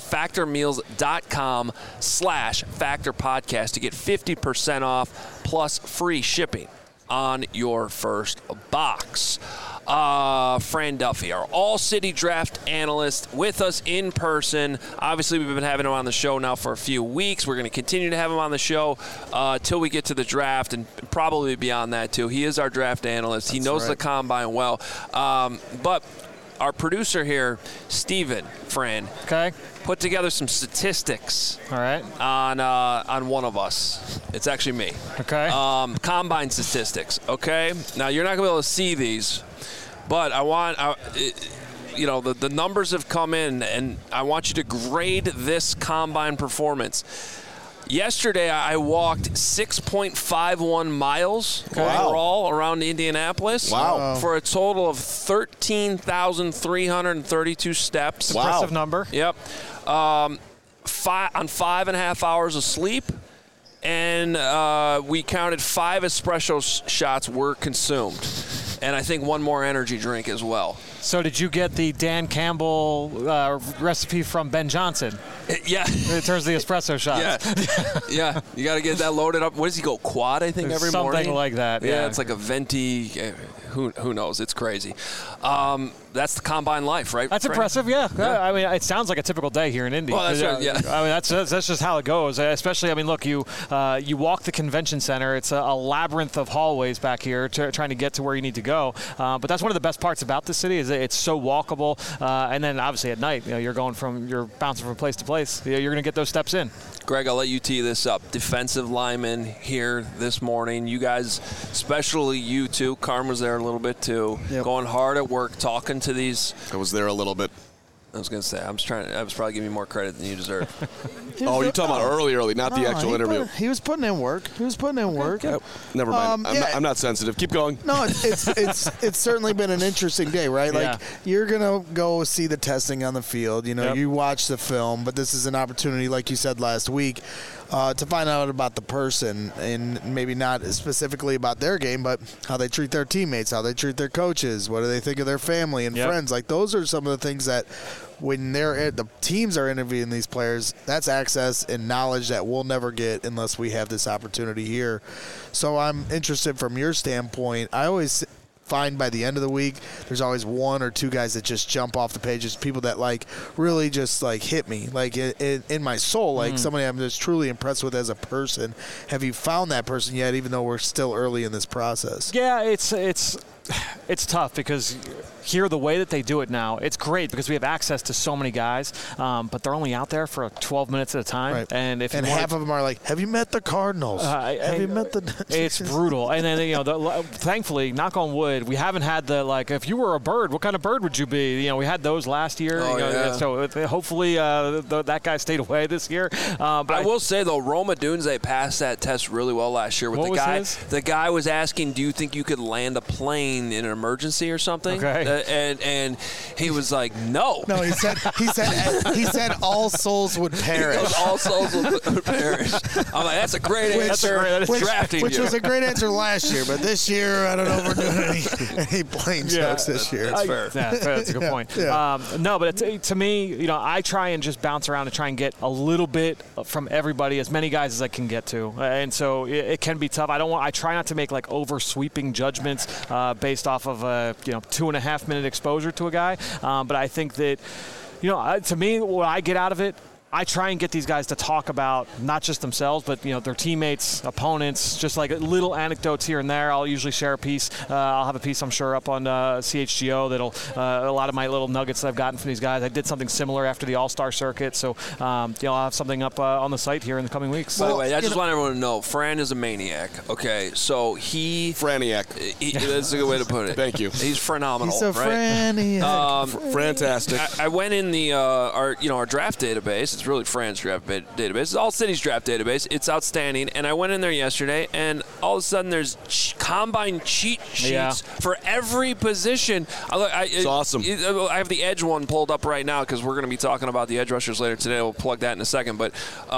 A: factormeals.com/Factor Podcast to get 50% off plus free shipping on your first box. Fran Duffy, our all-city draft analyst, with us in person. Obviously, we've been having him on the show now for a few weeks. We're going to continue to have him on the show till we get to the draft and probably beyond that, too. He is our draft analyst. He knows the combine well. But our producer here, Steven, Fran, put together some statistics on one of us. It's actually me.
E: Okay.
A: Combine statistics, okay? Now, you're not going to be able to see these, but I want the numbers have come in, and I want you to grade this combine performance. Yesterday, I walked 6.51 miles overall around Indianapolis for a total of 13,332 steps.
E: Impressive number.
A: Yep. On 5.5 hours of sleep, and we counted 5 espresso shots were consumed. And I think one more energy drink as well.
E: So did you get the Dan Campbell recipe from Ben Johnson?
A: Yeah.
E: In terms of the espresso shots.
A: Yeah. You got to get that loaded up. What does he go, quad, I think, every morning?
E: Something like that,
A: yeah. It's like a venti. who knows? It's crazy. That's the combine life, right?
E: That's
A: Frank?
E: impressive, yeah. I mean, it sounds like a typical day here in Indy.
A: Well, that's right, yeah.
E: I mean, that's just how it goes. Especially, I mean, look, you walk the convention center. It's a labyrinth of hallways back here trying to get to where you need to go. But that's one of the best parts about this city is that it's so walkable. And then obviously at night, you're bouncing from place to place. You're going to get those steps in.
A: Greg, I'll let you tee this up. Defensive lineman here this morning. You guys, especially you two, Carm was there a little bit too, going hard at work, talking to these.
B: I was there a little bit.
A: I was going to say, I was probably giving you more credit than you deserve.
B: You're talking about early, not the actual interview.
D: He was putting in work.
B: Yep. Never mind. I'm not sensitive. Keep going.
D: No, it's certainly been an interesting day, right? Like you're gonna go see the testing on the field. You watch the film, but this is an opportunity, like you said last week, to find out about the person, and maybe not specifically about their game, but how they treat their teammates, how they treat their coaches, what do they think of their family and friends. Like those are some of the things that when the teams are interviewing these players, that's access and knowledge that we'll never get unless we have this opportunity here. So I'm interested from your standpoint. I always find by the end of the week, there's always one or two guys that just jump off the pages, people that really just hit me in my soul, somebody I'm just truly impressed with as a person. Have you found that person yet, even though we're still early in this process?
E: Yeah, it's tough because here the way that they do it now, it's great because we have access to so many guys, but they're only out there for 12 minutes at a time.
D: Right.
E: And
D: half of them are like, have you met the Cardinals? Have you met the...
E: It's brutal. And then, thankfully, knock on wood, we haven't had if you were a bird, what kind of bird would you be? We had those last year. So hopefully that guy stayed away this year. But
A: I will say, though, Roma Dunze passed that test really well last year with the guy. The guy was asking, do you think you could land a plane in an emergency or something?
E: Okay.
A: And he was like, no.
D: No, he said all souls would perish.
A: All souls would perish. I'm like, that's a great answer.
D: Which was a great answer last year, but this year I don't know if we're doing any plane jokes this year.
A: That's fair.
E: Yeah, that's a good point. No, but to me, I try and just bounce around and try and get a little bit from everybody, as many guys as I can get to, and so it can be tough. I try not to make over sweeping judgments based off of a 2.5 minute exposure to a guy, but I think that to me, what I get out of it, I try and get these guys to talk about not just themselves, but their teammates, opponents, just little anecdotes here and there. I'll usually share a piece. I'll have a piece, I'm sure, up on CHGO that'll a lot of my little nuggets that I've gotten from these guys. I did something similar after the All-Star circuit, so I'll have something up on the site here in the coming weeks.
A: By the way, I just want everyone to know, Fran is a maniac. Okay, so
B: Franiac.
A: That's a good way to put it.
B: Thank you.
A: He's phenomenal.
D: He's a Franiac.
B: Fantastic.
A: I went in the our draft database. It's really Fran's draft database. It's All City's draft database. It's outstanding. And I went in there yesterday, and all of a sudden there's combine cheat sheets for every position.
B: It's awesome.
A: I have the edge one pulled up right now because we're going to be talking about the edge rushers later today. We'll plug that in a second. But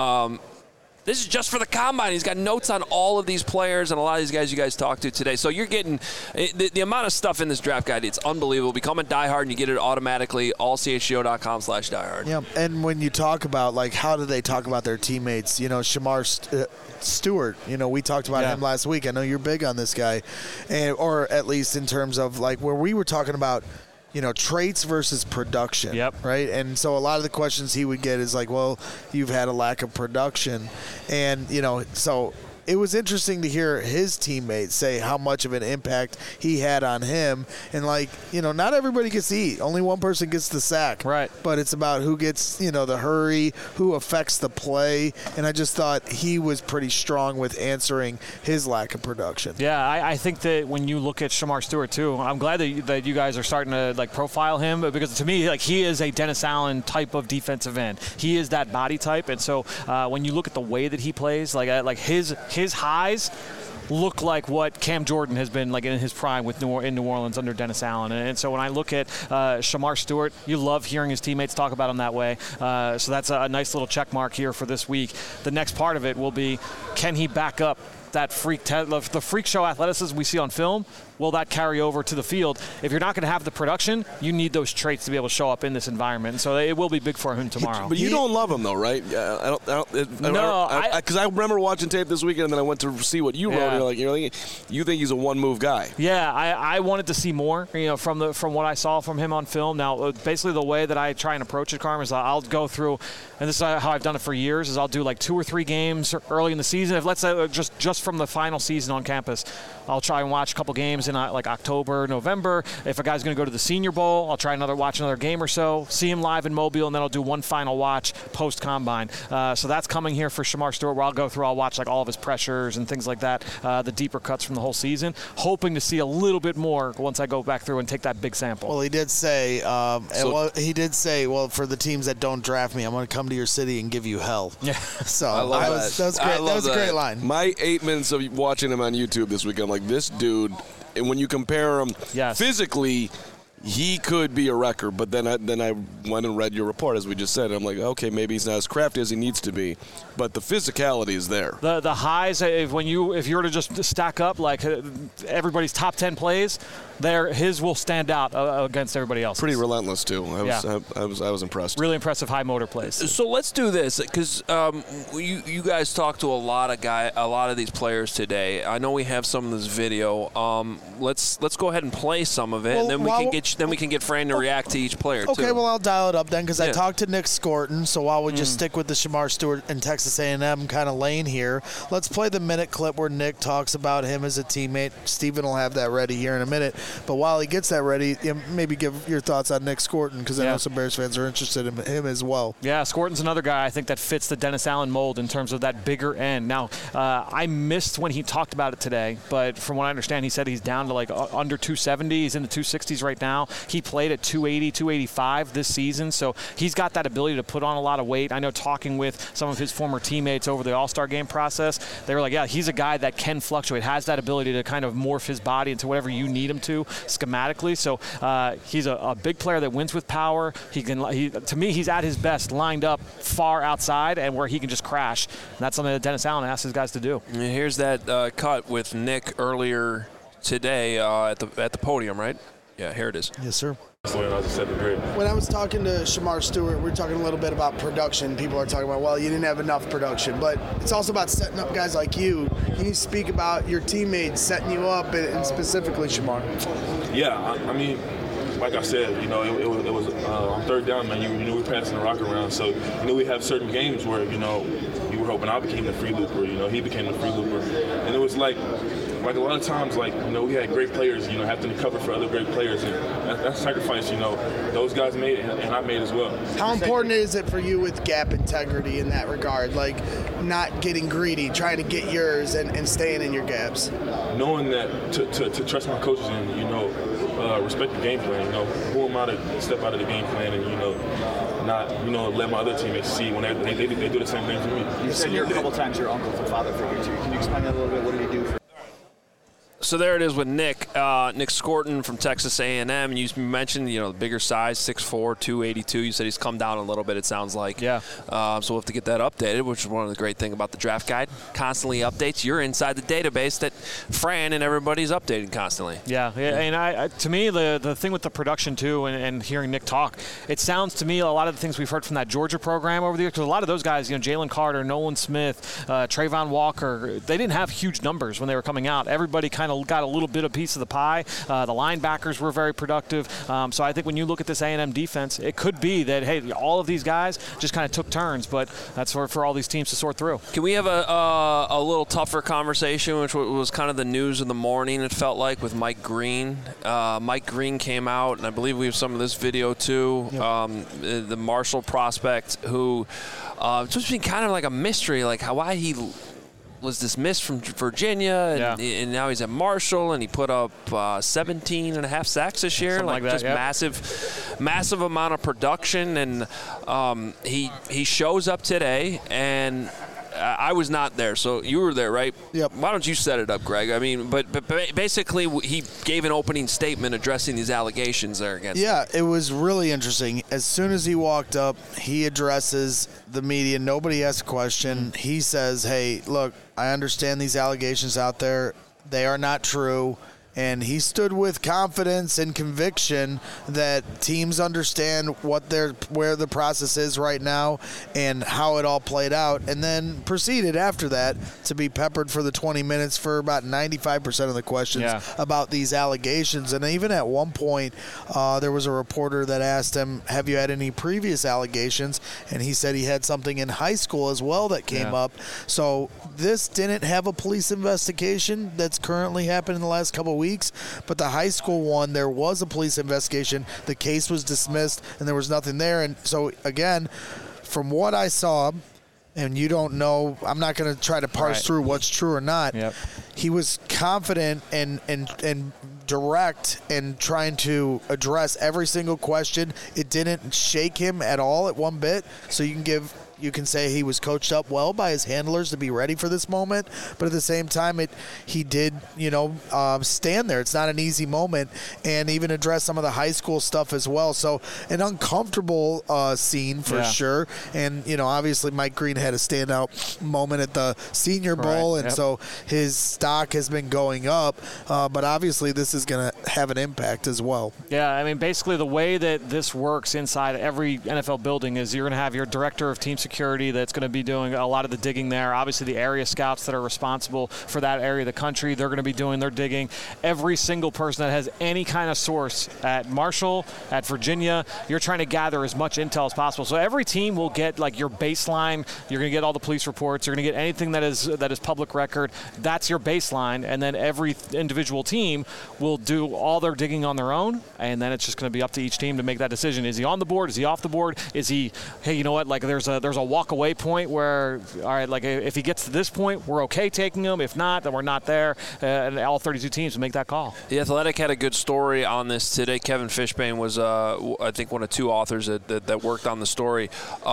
A: this is just for the combine. He's got notes on all of these players and a lot of these guys you guys talked to today. So you're getting the amount of stuff in this draft guide. It's unbelievable. Become a diehard and you get it automatically. allchgo.com/diehard.
D: Yeah, and when you talk about how do they talk about their teammates? Shamar Stewart. We talked about him last week. I know you're big on this guy, or at least in terms of where we were talking about. Traits versus production.
E: Yep.
D: Right? And so a lot of the questions he would get is well, you've had a lack of production. And, so it was interesting to hear his teammates say how much of an impact he had on him. And, not everybody gets to eat. Only one person gets the sack.
E: Right.
D: But it's about who gets, the hurry, who affects the play. And I just thought he was pretty strong with answering his lack of production.
E: Yeah, I think that when you look at Shamar Stewart, too, I'm glad that you guys are starting to, profile him because, to me, he is a Dennis Allen type of defensive end. He is that body type. And so when you look at the way that he plays, his highs look like what Cam Jordan has been in his prime in New Orleans under Dennis Allen. And so when I look at Shamar Stewart, you love hearing his teammates talk about him that way. So that's a nice little check mark here for this week. The next part of it will be, can he back up that the freak show athleticism we see on film, will that carry over to the field? If you're not going to have the production, you need those traits to be able to show up in this environment. And so it will be big for him tomorrow.
B: But you don't love him, though, right? No, because I remember watching tape this weekend, and then I went to see what you wrote. And you think he's a one-move guy?
E: Yeah, I wanted to see more. From what I saw from him on film. Now, basically, the way that I try and approach it, Carm, is I'll go through, and this is how I've done it for years. Is I'll do like 2 or 3 games early in the season. If let's say just from the final season on campus, I'll try and watch a couple games in like October, November. If a guy's going to go to the Senior Bowl, I'll try watch another game or so, see him live in Mobile, and then I'll do one final watch post-combine. So that's coming here for Shemar Stewart, where I'll watch like all of his pressures and things like that, the deeper cuts from the whole season, hoping to see a little bit more once I go back through and take that big sample.
D: Well, he did say, for the teams that don't draft me, I'm going to come to your city and give you hell.
E: Yeah.
D: So that was great. That was a great line.
B: My 8 minutes of watching him on YouTube this week, I'm like, this dude, and when you compare him physically, he could be a wrecker, but then I went and read your report, as we just said. I'm like, okay, maybe he's not as crafty as he needs to be, but the physicality is there.
E: The highs, if you were to just stack up like everybody's top 10 plays, his will stand out against everybody else.
B: Pretty relentless too. I was impressed.
E: Really impressive high motor plays.
A: So let's do this, because you guys talked to a lot of these players today. I know we have some of this video. Let's go ahead and play some of it, and then we can get Fran to react to each player.
D: Okay,
A: too.
D: well, I'll dial it up then, because I talked to Nick Scorton. So while we just stick with the Shemar Stewart and Texas A&M kind of lane here, let's play the minute clip where Nick talks about him as a teammate. Steven will have that ready here in a minute. But while he gets that ready, maybe give your thoughts on Nick Scorton, because I know some Bears fans are interested in him as well.
E: Yeah, Scorton's another guy I think that fits the Dennis Allen mold in terms of that bigger end. Now, I missed when he talked about it today, but from what I understand, he said he's down to like under 270. He's in the 260s right now. He played at 280, 285 this season, so he's got that ability to put on a lot of weight. I know talking with some of his former teammates over the All-Star game process, they were like, yeah, he's a guy that can fluctuate, has that ability to kind of morph his body into whatever you need him to schematically. So he's a big player that wins with power. To me, he's at his best lined up far outside and where he can just crash. And that's something that Dennis Allen asks his guys to do.
A: And here's that cut with Nick earlier today at the podium, right? Yeah, here it is.
D: Yes, sir.
F: When I was talking to Shemar Stewart, we were talking a little bit about production. People are talking about, well, you didn't have enough production, but it's also about setting up guys like you. Can you speak about your teammates setting you up, and specifically Shemar?
G: Yeah, I mean, like I said, it was on third down, man. You knew we were passing the rock around, so we have certain games where you were hoping I became the free looper, he became the free looper, and it was like a lot of times, we had great players, having to cover for other great players, and that sacrifice, those guys made and I made as well.
F: How important is it for you with gap integrity in that regard, like not getting greedy, trying to get yours and staying in your gaps?
G: Knowing that to trust my coaches and respect the game plan. Who am I to step out of the game plan and not let my other teammates see when they do the same thing to me.
H: You said here a couple times your uncle's a father figure too. Can you explain that a little bit? What did he do for?
A: So there it is with Nick Scorton from Texas A&M. You mentioned, the bigger size, 6'4", 282. You said he's come down a little bit, it sounds like.
E: Yeah.
A: So we'll have to get that updated, which is one of the great things about the draft guide. Constantly updates. You're inside the database that Fran and everybody's updating constantly.
E: Yeah. And to me, the thing with the production, too, and hearing Nick talk, it sounds to me a lot of the things we've heard from that Georgia program over the years, because a lot of those guys, Jalen Carter, Nolan Smith, Trayvon Walker, they didn't have huge numbers when they were coming out. Everybody kind of got a little bit of piece of the pie. The linebackers were very productive. So I think when you look at this A&M defense, it could be that, hey, all of these guys just kind of took turns, but that's for all these teams to sort through.
A: Can we have a little tougher conversation, which was kind of the news of the morning, it felt like, with Mike Green? Mike Green came out, and I believe we have some of this video too. Yep. The Marshall prospect who it's just been kind of like a mystery, like why he was dismissed from Virginia, and now he's at Marshall, and he put up 17 and a half sacks this year,
E: like that,
A: just massive amount of production, and he shows up today, and I was not there, so you were there, right?
D: Yep.
A: Why don't you set it up, Greg? I mean, but basically he gave an opening statement addressing these allegations there against him.
D: Yeah, it was really interesting. As soon as he walked up, he addresses the media. Nobody asked a question. He says, hey, look, I understand these allegations out there. They are not true. And he stood with confidence and conviction that teams understand where the process is right now and how it all played out, and then proceeded after that to be peppered for the 20 minutes for about 95% of the questions about these allegations. And even at one point, there was a reporter that asked him, have you had any previous allegations? And he said he had something in high school as well that came up. So this didn't have a police investigation that's currently happened in the last couple of weeks. But the high school one, there was a police investigation. The case was dismissed, and there was nothing there. And so, again, from what I saw, and you don't know, I'm not going to try to parse through what's true or not. He was confident and direct and trying to address every single question. It didn't shake him at all at one bit. So you can say he was coached up well by his handlers to be ready for this moment, but at the same time, he did, stand there. It's not an easy moment, and even address some of the high school stuff as well. So an uncomfortable scene for sure. And, obviously Mike Green had a standout moment at the Senior Bowl, and so his stock has been going up, but obviously this is going to have an impact as well.
E: Yeah, I mean, basically the way that this works inside every NFL building is you're going to have your director of team security that's going to be doing a lot of the digging there. Obviously, the area scouts that are responsible for that area of the country, they're going to be doing their digging. Every single person that has any kind of source at Marshall, at Virginia, you're trying to gather as much intel as possible. So every team will get like your baseline. You're going to get all the police reports. You're going to get anything that is public record. That's your baseline. And then every individual team will do all their digging on their own. And then it's just going to be up to each team to make that decision. Is he on the board? Is he off the board? Is he, hey, you know what? Like there's a walk-away point where, all right, like if he gets to this point, we're okay taking him. If not, then we're not there. And all 32 teams will make that call.
A: The Athletic had a good story on this today. Kevin Fishbane was, I think, one of two authors that worked on the story.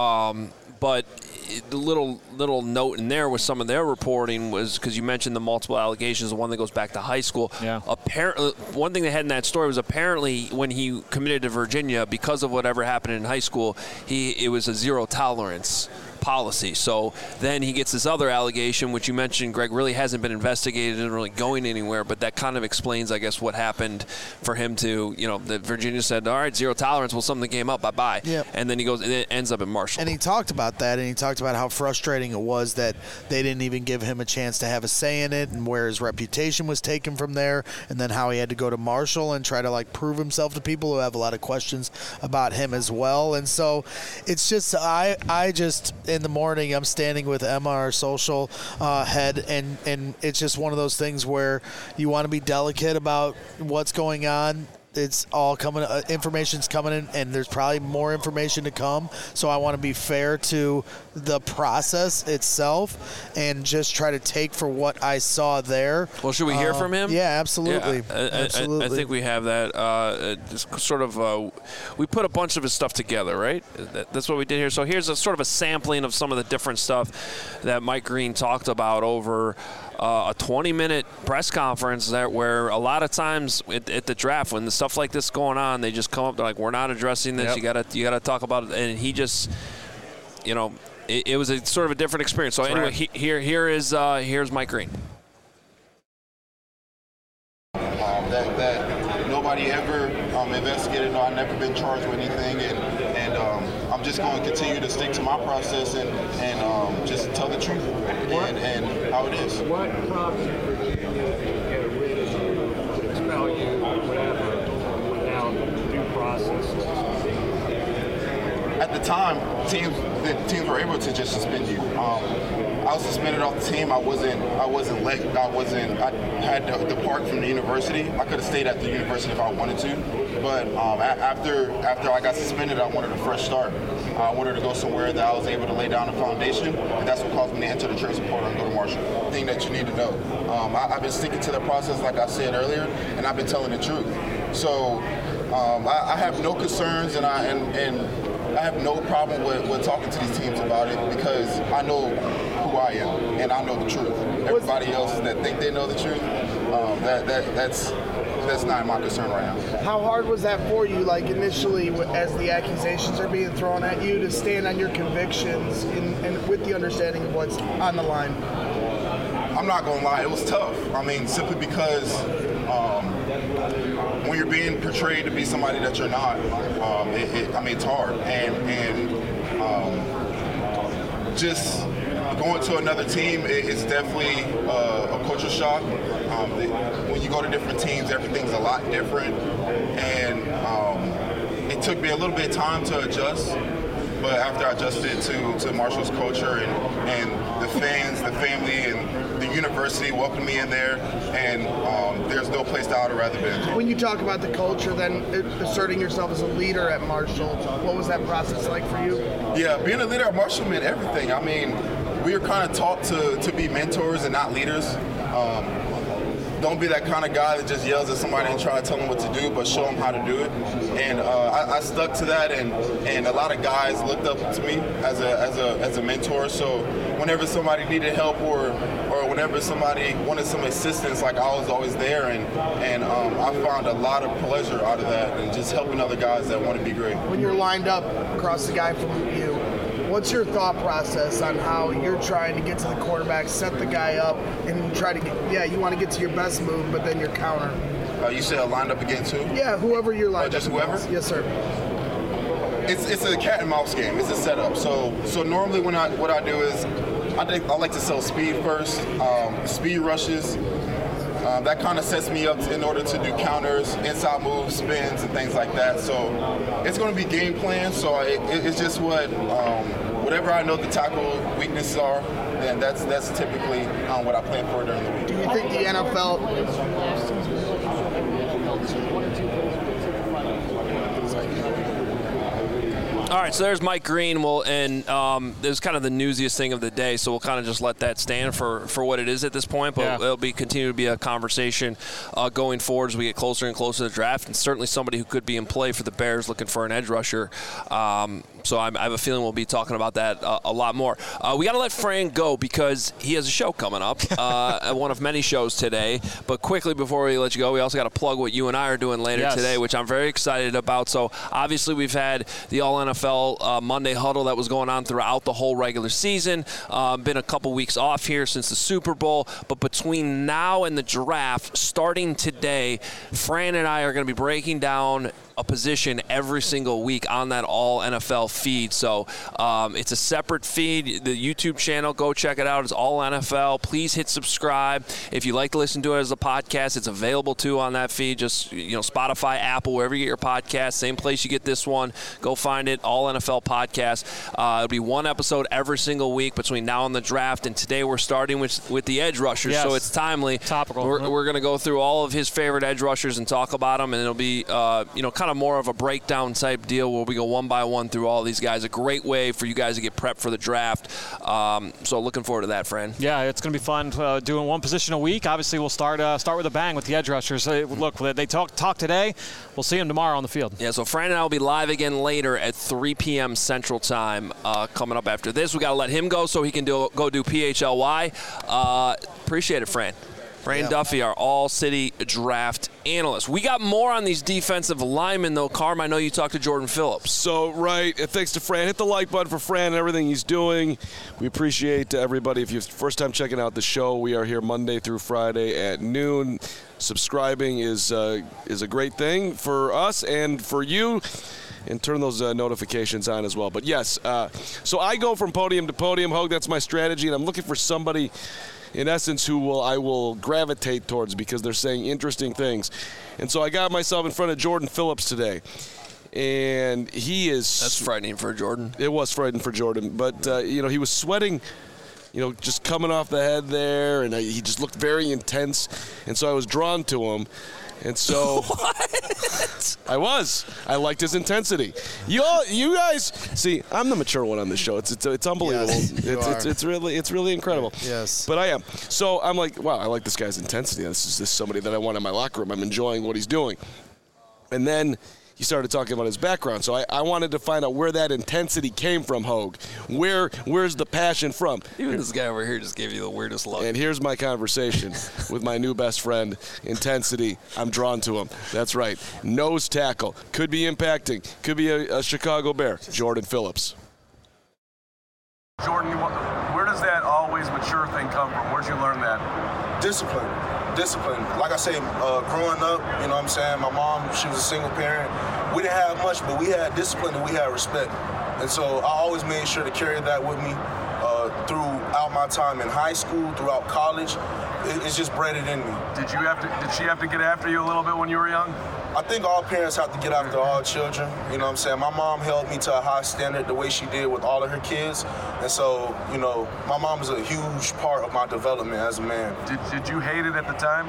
A: But the little note in there with some of their reporting was, because you mentioned the multiple allegations, the one that goes back to high school. Apparently, one thing they had in that story was apparently when he committed to Virginia, because of whatever happened in high school, it was a zero tolerance policy. So then he gets this other allegation, which you mentioned, Greg, really hasn't been investigated and really going anywhere, but that kind of explains, I guess, what happened for him to, that Virginia said, all right, zero tolerance, we'll sum the game up, bye-bye. And then he goes, and it ends up in Marshall.
D: And he talked about that, and he talked about how frustrating it was that they didn't even give him a chance to have a say in it, and where his reputation was taken from there, and then how he had to go to Marshall and try to prove himself to people who have a lot of questions about him as well. And so it's just, I just, in the morning, I'm standing with Emma, our social head, and it's just one of those things where you want to be delicate about what's going on. It's all coming, information's coming in, and there's probably more information to come. So I want to be fair to the process itself and just try to take for what I saw there.
A: Well, should we hear from him?
D: Yeah, absolutely.
A: Yeah, absolutely. I think we have that. Just sort of, we put a bunch of his stuff together, right? That's what we did here. So here's a sort of a sampling of some of the different stuff that Mike Green talked about over a 20-minute press conference where a lot of times at the draft, when the stuff like this is going on, they just come up, they're like, we're not addressing this. Yep. You gotta talk about it. And he just, it was a sort of a different experience. So anyway, here's Mike Green.
I: That nobody ever investigated. I've never been charged with anything, and I'm just going to continue to stick to my process and just tell the truth and how it is.
J: What prompted Virginia to get rid of you, to expel you, whatever, without due process?
I: At the time, the teams were able to just suspend you. I was suspended off the team. I had to depart from the university. I could have stayed at the university if I wanted to, but after I got suspended, I wanted a fresh start. I wanted to go somewhere that I was able to lay down a foundation, and that's what caused me to enter the transfer portal and go to Marshall. The thing that you need to know, I've been sticking to the process, like I said earlier, and I've been telling the truth. So I have no concerns, and I have no problem with talking to these teams about it, because I know who I am and I know the truth. Everybody else that think they know the truth, that's not my concern right now.
F: How hard was that for you, initially, as the accusations are being thrown at you, to stand on your convictions and with the understanding of what's on the line?
I: I'm not going to lie, it was tough. I mean, simply because when you're being portrayed to be somebody that you're not, it's hard. And just going to another team, it's definitely a culture shock. When you go to different teams, everything's a lot different. And it took me a little bit of time to adjust. But after I adjusted to Marshall's culture and the fans, the family, and the university welcomed me in there, and there's no place that I would have rather been.
F: When you talk about the culture, then asserting yourself as a leader at Marshall, what was that process like for you?
I: Yeah, being a leader at Marshall meant everything. I mean, we were kind of taught to be mentors and not leaders. Don't be that kind of guy that just yells at somebody and try to tell them what to do, but show them how to do it. And I stuck to that, and a lot of guys looked up to me as a mentor. So whenever somebody needed help or whenever somebody wanted some assistance, like I was always there, and I found a lot of pleasure out of that, and just helping other guys that want to be great.
F: When you're lined up across the guy from you, what's your thought process on how you're trying to get to the quarterback, set the guy up, and try to get, you want to get to your best move, but then your counter?
I: You said lined up against who?
F: Yeah, whoever you're lined up
I: just whoever?
F: against. Yes, sir.
I: It's a cat and mouse game. It's a setup. So normally what I do is I like to sell speed first, speed rushes. That kind of sets me up in order to do counters, inside moves, spins, and things like that. So it's going to be game plan. So it's just whatever I know the tackle weaknesses are, then that's typically what I plan for during the week.
F: Do you think the NFL?
A: All right, so there's Mike Green. It was kind of the newsiest thing of the day, so we'll kind of just let that stand for what it is at this point. But it'll continue to be a conversation going forward as we get closer and closer to the draft, and certainly somebody who could be in play for the Bears looking for an edge rusher. So I have a feeling we'll be talking about that a lot more. We got to let Fran go because he has a show coming up, one of many shows today. But quickly before we let you go, we also got to plug what you and I are doing later today, which I'm very excited about. So obviously we've had the All-NFL Monday Huddle that was going on throughout the whole regular season. Been a couple weeks off here since the Super Bowl. But between now and the draft, starting today, Fran and I are going to be breaking down a position every single week on that all NFL feed. So it's a separate feed. The YouTube channel, go check it out. It's all NFL. Please hit subscribe. If you like to listen to it as a podcast, it's available too on that feed. Just Spotify, Apple, wherever you get your podcast, same place you get this one. Go find it, all NFL podcast. It'll be one episode every single week between now and the draft. And today we're starting with the edge rushers, so it's timely.
E: Topical.
A: We're going to go through all of his favorite edge rushers and talk about them, and it'll be kind of more of a breakdown type deal where we go one by one through all these guys. A great way for you guys to get prepped for the draft. So looking forward to that, Fran.
E: Yeah, it's going to be fun doing one position a week. Obviously, we'll start with a bang with the edge rushers. Look, they talk today. We'll see them tomorrow on the field.
A: Yeah, so Fran and I will be live again later at 3 p.m. Central Time coming up after this. We got to let him go so he can go do PHLY. Appreciate it, Fran. Fran Duffy, our all-city draft analyst. We got more on these defensive linemen, though. Carm, I know you talked to Jordan Phillips.
B: So, right, thanks to Fran. Hit the like button for Fran and everything he's doing. We appreciate everybody. If you're first time checking out the show, we are here Monday through Friday at noon. Subscribing is a great thing for us and for you. And turn those notifications on as well. But, yes, so I go from podium to podium. Hogue, that's my strategy, and I'm looking for somebody – in essence, I will gravitate towards because they're saying interesting things. And so I got myself in front of Jordan Phillips today. And he is...
A: That's frightening for Jordan.
B: It was frightening for Jordan. But, he was sweating, just coming off the head there. And he just looked very intense. And so I was drawn to him. And so
A: what?
B: I liked his intensity. You guys see, I'm the mature one on this show. It's unbelievable.
D: Yes,
B: it's really incredible.
D: Yes.
B: But I am. So I'm like, wow, I like this guy's intensity. This is somebody that I want in my locker room. I'm enjoying what he's doing. And then he started talking about his background. So I wanted to find out where that intensity came from, Hogue. Where's the passion from?
A: Even this guy over here just gave you the weirdest look.
B: And here's my conversation with my new best friend, intensity. I'm drawn to him. That's right. Nose tackle. Could be impacting. Could be a Chicago Bear. Jordan Phillips.
K: Jordan, where does that always mature thing come from? Where'd you learn that?
I: Discipline. Like I say, growing up, you know what I'm saying, my mom, she was a single parent. We didn't have much, but we had discipline and we had respect. And so I always made sure to carry that with me throughout my time in high school, throughout college. It's just bred it in me.
K: Did she have to get after you a little bit when you were young?
I: I think all parents have to get after all children. You know what I'm saying? My mom held me to a high standard the way she did with all of her kids. And so, you know, my mom is a huge part of my development as a man.
K: Did you hate it at the time?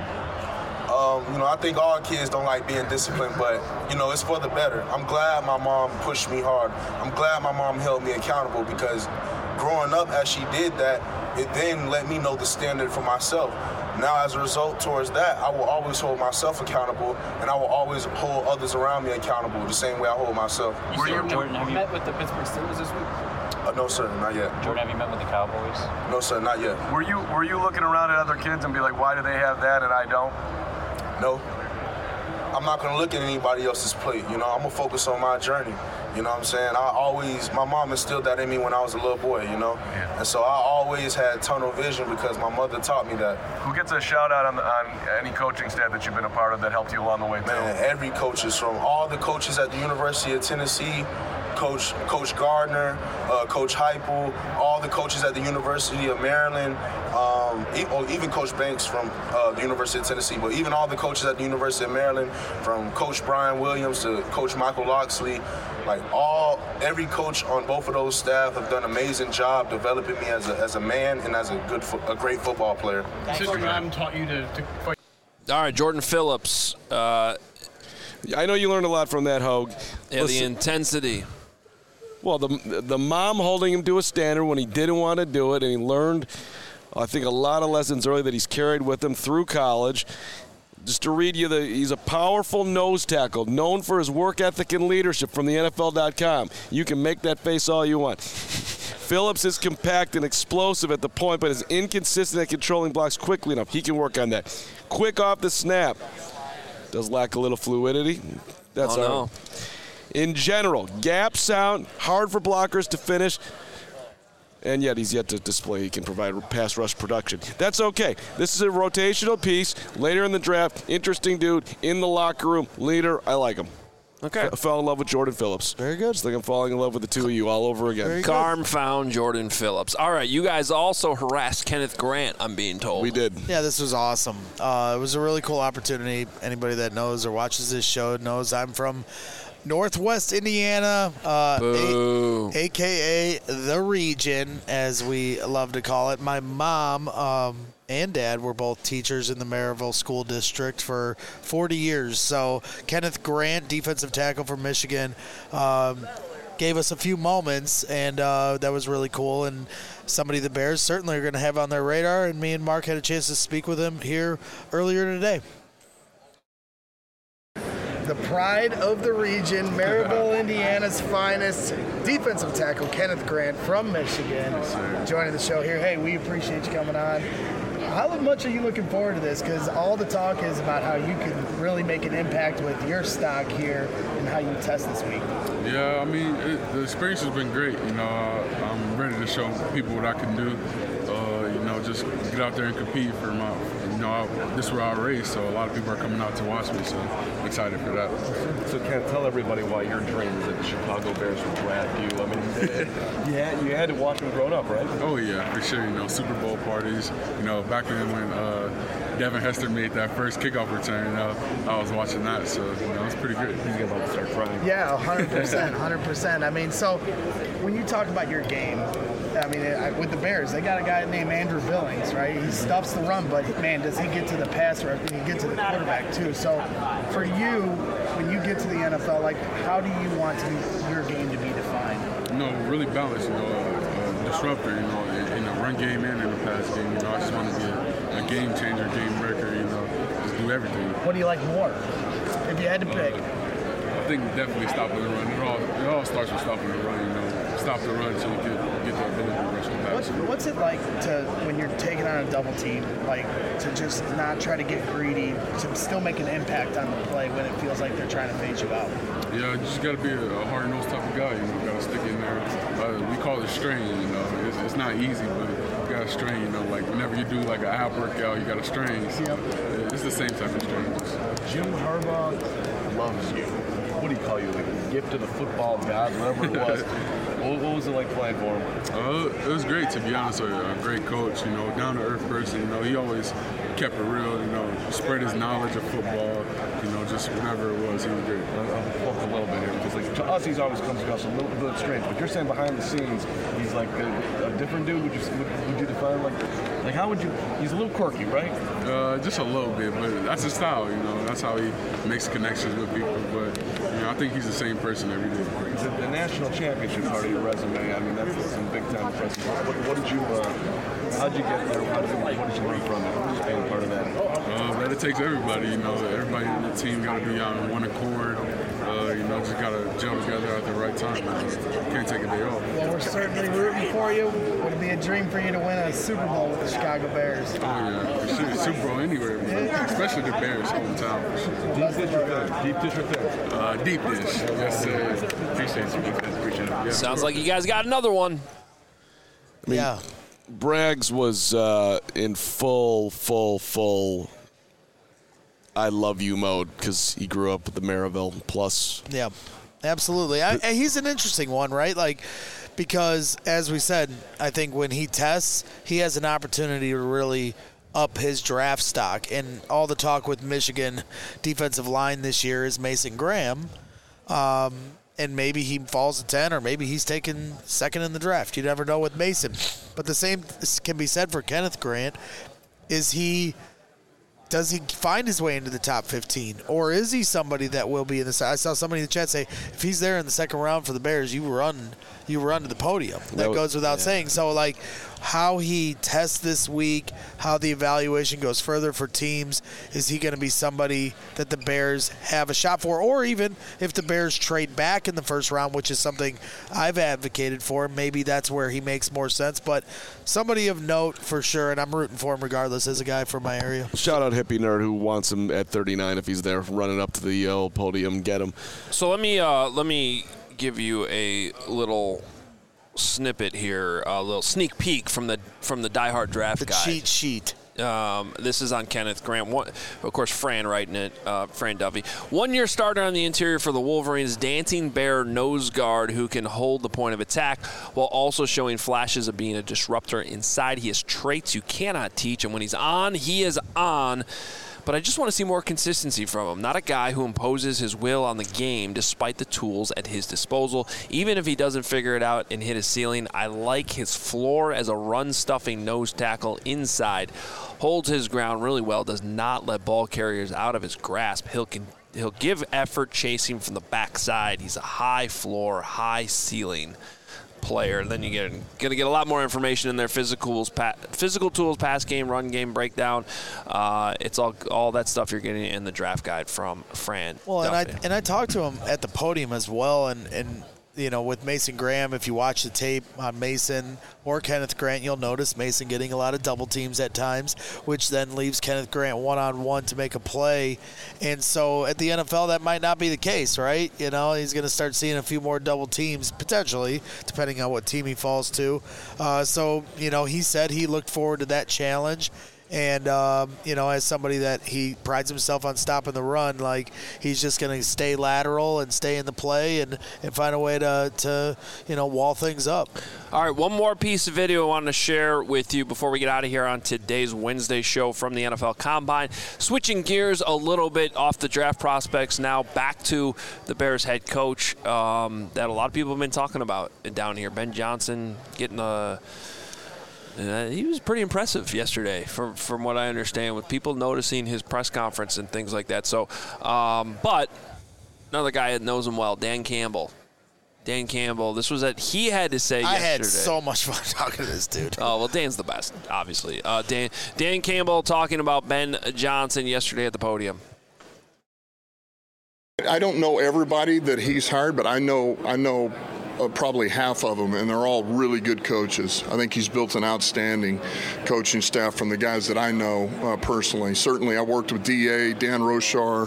I: You know, I think all kids don't like being disciplined, but, you know, it's for the better. I'm glad my mom pushed me hard. I'm glad my mom held me accountable because growing up as she did that, it then let me know the standard for myself. Now, as a result towards that, I will always hold myself accountable, and I will always hold others around me accountable the same way I hold myself.
L: Jordan, have you met with the Pittsburgh Steelers this week?
I: No, sir, not yet.
L: Jordan, have you met with the Cowboys?
I: No, sir, not yet.
K: Were you looking around at other kids and be like, why do they have that and I don't?
I: No. I'm not going to look at anybody else's plate. You know, I'm going to focus on my journey. You know what I'm saying? My mom instilled that in me when I was a little boy, you know? Yeah. And so I always had tunnel vision because my mother taught me that.
K: Who gets a shout out on any coaching staff that you've been a part of that helped you along the way, too?
I: Man, every coach is from all the coaches at the University of Tennessee, Coach Gardner, Coach Heupel, all the coaches at the University of Maryland, even Coach Banks from the University of Tennessee, but even all the coaches at the University of Maryland, from Coach Brian Williams to Coach Michael Locksley, like every coach on both of those staff have done an amazing job developing me as a man and as a great football player.
M: Sister mom taught you to fight.
A: All right, Jordan Phillips.
B: I know you learned a lot from that, Hogue.
A: Yeah, listen, the intensity.
B: Well, the mom holding him to a standard when he didn't want to do it, and he learned, I think, a lot of lessons early that he's carried with him through college. Just to read you, he's a powerful nose tackle, known for his work ethic and leadership from the NFL.com. You can make that face all you want. Phillips is compact and explosive at the point, but is inconsistent at controlling blocks quickly enough. He can work on that. Quick off the snap. Does lack a little fluidity. That's all. In general, gap sound, hard for blockers to finish, and yet he's yet to display he can provide pass rush production. That's okay. This is a rotational piece. Later in the draft, interesting dude, in the locker room, leader. I like him.
A: Okay.
B: I fell in love with Jordan Phillips.
D: Very good.
B: Just like I'm falling in love with the two of you all over again.
A: Carm found Jordan Phillips. All right, you guys also harassed Kenneth Grant, I'm being told.
B: We did.
D: Yeah, this was awesome. It was a really cool opportunity. Anybody that knows or watches this show knows I'm from Northwest Indiana, a.k.a. the region, as we love to call it. My mom and dad were both teachers in the Maryville School District for 40 years. So Kenneth Grant, defensive tackle from Michigan, gave us a few moments, and that was really cool. And somebody the Bears certainly are going to have on their radar, and me and Mark had a chance to speak with him here earlier today.
F: The pride of the region, Maryville, Indiana's finest defensive tackle, Kenneth Grant from Michigan, joining the show here. Hey, we appreciate you coming on. How much are you looking forward to this? Because all the talk is about how you can really make an impact with your stock here and how you test this week.
N: Yeah, I mean, the experience has been great. You know, I'm ready to show people what I can do. Just get out there and compete for my, this is where I race, so a lot of people are coming out to watch me, so I'm excited for that.
O: So Ken, tell everybody why your dream is that the Chicago Bears would grab you. I mean, you had to watch them growing up, right?
N: Oh yeah, for sure. Super Bowl parties. Back then when Devin Hester made that first kickoff return, I was watching that, so it was pretty good.
O: He's about to start crying.
F: Yeah, 100%, 100%. I mean, so when you talk about your game, I mean, with the Bears, they got a guy named Andrew Billings, right? He stuffs the run, but man, does he get to the passer and he get to the quarterback too. So for you, when you get to the NFL, like, how do you want your game to be defined?
N: Really balanced, disruptor, in the run game and in the pass game. I just want to be a game changer, game breaker, just do everything.
F: What do you like more, if you had to pick?
N: I think definitely stopping the run. It all starts with stopping the run, Stop the run so you can get the ability to rush the pass.
F: What's it like when you're taking on a double team, like to just not try to get greedy, to still make an impact on the play when it feels like they're trying to phase you out?
N: Yeah, you just got to be a hard-nosed type of guy. Got to stick in there. We call it strain. It's not easy, but got a strain, you know, like whenever you do like a ab workout, you got a strain. It's the same type of strain.
O: Jim Harbaugh loves you. What do you call you? Like a gift of the football god, whatever it was. What was it like playing for him?
N: It was great, to be honest with you. A great coach, you know, down-to-earth person. You know, he always kept it real, you know, spread his knowledge of football, you know, just whatever it was, he was great.
O: I'll talk a little bit here, because like, to us, he's always comes across a little bit strange, but you're saying behind the scenes, he's like a different dude. Would you define like how would you, he's a little quirky, right?
N: Just a little bit, but that's his style, you know, that's how he makes connections with people, but, you know, I think he's the same person every day.
O: The national championship part of your resume, I mean, that's some big-time impressive. What did you, how'd you get there? What did you learn from it? Just being part of that?
N: That it takes everybody, you know, everybody in the team got to be on one accord. You know, just got to gel together at the right time. Can't take a day off.
F: Well, we're certainly rooting for you. Would it be a dream for you to win a Super Bowl with the Chicago Bears?
N: Oh, yeah, for sure. Super Bowl anywhere, especially the Bears hometown.
O: Deep dish or thing? Deep dish or thing?
N: Deep dish. Yes, sir. Appreciate it. Appreciate it. Yeah.
A: Sounds like you guys got another one.
B: I mean, Braggs was in full I love you mode because he grew up with the Maryville Plus.
D: Yeah, absolutely. He's an interesting one, right? Like, because as we said, I think when he tests, he has an opportunity to really up his draft stock. And all the talk with Michigan defensive line this year is Mason Graham. And maybe he falls to 10, or maybe he's taken second in the draft. You never know with Mason. But the same can be said for Kenneth Grant. Does he find his way into the top 15? Or is he somebody that will be in the – I saw somebody in the chat say, if he's there in the second round for the Bears, you run to the podium. That goes without saying. So, like, how he tests this week, how the evaluation goes further for teams, is he going to be somebody that the Bears have a shot for? Or even if the Bears trade back in the first round, which is something I've advocated for, maybe that's where he makes more sense. But somebody of note for sure, and I'm rooting for him regardless as a guy from my area.
B: Shout out Hippie Nerd who wants him at 39 if he's there running up to the old podium, get him.
A: So let me give you a little snippet here, a little sneak peek from the Die Hard Draft Guide.
D: The cheat sheet.
A: This is on Kenneth Grant. Of course, Fran writing it, Fran Duffy. 1-year starter on the interior for the Wolverines, dancing bear nose guard who can hold the point of attack while also showing flashes of being a disruptor inside. He has traits you cannot teach, and when he's on, he is on. But I just want to see more consistency from him. Not a guy who imposes his will on the game despite the tools at his disposal. Even if he doesn't figure it out and hit his ceiling, I like his floor as a run-stuffing nose tackle inside. Holds his ground really well, does not let ball carriers out of his grasp. He'll give effort chasing from the backside. He's a high floor, high ceiling player. And then you're going to get a lot more information in their physical tools, pass game, run game breakdown. It's all that stuff you're getting in the draft guide from Fran.
D: Well, and I talked to him at the podium as well, and you know, with Mason Graham, if you watch the tape on Mason or Kenneth Grant, you'll notice Mason getting a lot of double teams at times, which then leaves Kenneth Grant one-on-one to make a play. And so at the NFL, that might not be the case, right? You know, he's going to start seeing a few more double teams, potentially, depending on what team he falls to. So, you know, he said he looked forward to that challenge. And, you know, as somebody that he prides himself on stopping the run, like, he's just going to stay lateral and stay in the play and find a way to, you know, wall things up.
A: All right, one more piece of video I wanted to share with you before we get out of here on today's Wednesday show from the NFL Combine. Switching gears a little bit off the draft prospects now back to the Bears head coach that a lot of people have been talking about down here. Ben Johnson getting a... he was pretty impressive yesterday, from what I understand, with people noticing his press conference and things like that. So, but another guy that knows him well, Dan Campbell. Dan Campbell, this was he had to say yesterday.
D: I had so much fun talking to this dude.
A: Oh, well, Dan's the best, obviously. Dan Campbell talking about Ben Johnson yesterday at the podium.
P: I don't know everybody that he's hired, but I know probably half of them, and they're all really good coaches. I think he's built an outstanding coaching staff from the guys that I know personally. Certainly, I worked with D.A., Dan Rochar,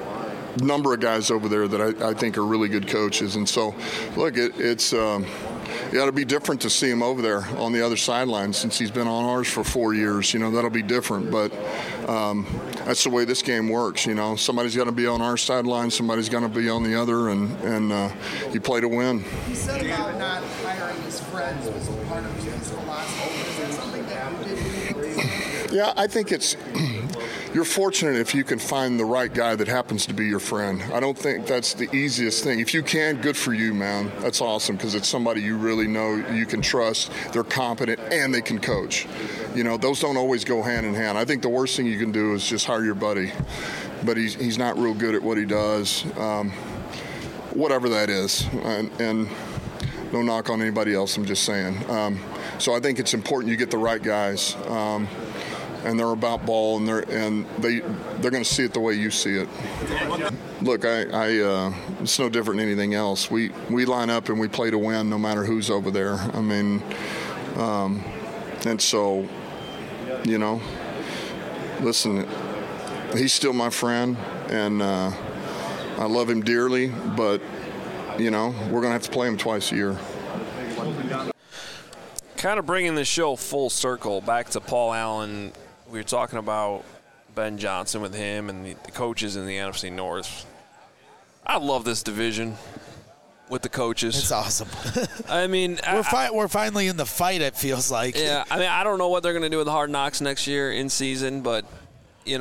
P: number of guys over there that I think are really good coaches. And so, look, it's it'll be different to see him over there on the other sideline since he's been on ours for 4 years. That'll be different, but that's the way this game works. Somebody's got to be on our sideline, somebody's going to be on the other, and you play to win.
F: He said about not hiring his friends was part of his philosophy. Is that something that you did?
P: Yeah, I think you're fortunate if you can find the right guy that happens to be your friend. I don't think that's the easiest thing. If you can, good for you, man. That's awesome because it's somebody you really know, you can trust, they're competent, and they can coach. Those don't always go hand in hand. I think the worst thing you can do is just hire your buddy. But he's not real good at what he does, whatever that is. And no knock on anybody else, I'm just saying. So I think it's important you get the right guys. And they're about ball, and they're going to see it the way you see it. Look, it's no different than anything else. We line up and we play to win, no matter who's over there. I mean, and so, listen, he's still my friend, and I love him dearly. But we're going to have to play him twice a year.
A: Kind of bringing the show full circle back to Paul Allen. We were talking about Ben Johnson with him and the coaches in the NFC North. I love this division with the coaches.
D: It's awesome.
A: I mean,
D: we're finally in the fight, it feels like.
A: Yeah, I mean, I don't know what they're going to do with Hard Knocks next year in season, but,
D: I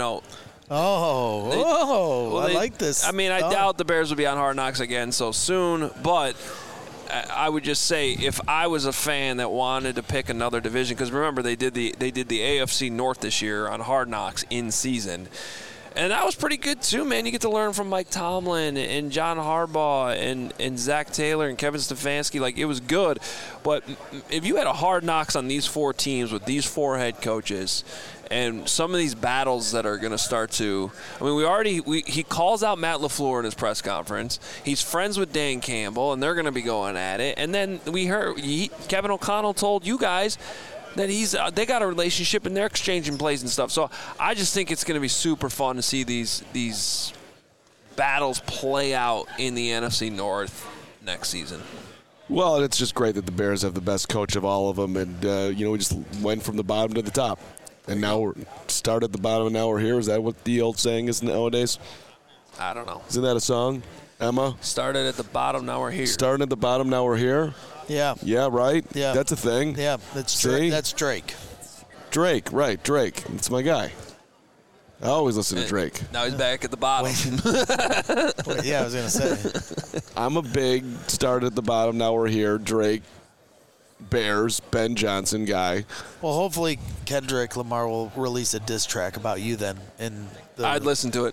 D: like this.
A: I mean, I doubt the Bears will be on Hard Knocks again so soon, but I would just say if I was a fan that wanted to pick another division, because remember they did the AFC North this year on Hard Knocks in season, and that was pretty good too, man. You get to learn from Mike Tomlin and John Harbaugh and Zach Taylor and Kevin Stefanski. Like, it was good, but if you had a Hard Knocks on these 4 teams with these 4 head coaches. And some of these battles that are going to start to – I mean, he calls out Matt LaFleur in his press conference. He's friends with Dan Campbell, and they're going to be going at it. And then we heard Kevin O'Connell told you guys that they got a relationship and they're exchanging plays and stuff. So I just think it's going to be super fun to see these battles play out in the NFC North next season.
B: Well, it's just great that the Bears have the best coach of all of them. And, we just went from the bottom to the top. And now we're start at the bottom and now we're here. Is that what the old saying is nowadays?
A: I don't know.
B: Isn't that a song, Emma?
A: Started at the bottom, now we're here.
B: Starting at the bottom, now we're here?
D: Yeah.
B: Yeah, right?
D: Yeah.
B: That's a thing.
D: Yeah, that's Drake.
B: Drake, right, Drake. That's my guy. I always listen to Drake.
A: Now he's back at the bottom.
D: Yeah, I was going to say.
B: I'm a big start at the bottom, now we're here, Drake. Bears, Ben Johnson guy.
D: Well, hopefully Kendrick Lamar will release a diss track about you then.
A: I'd listen to it.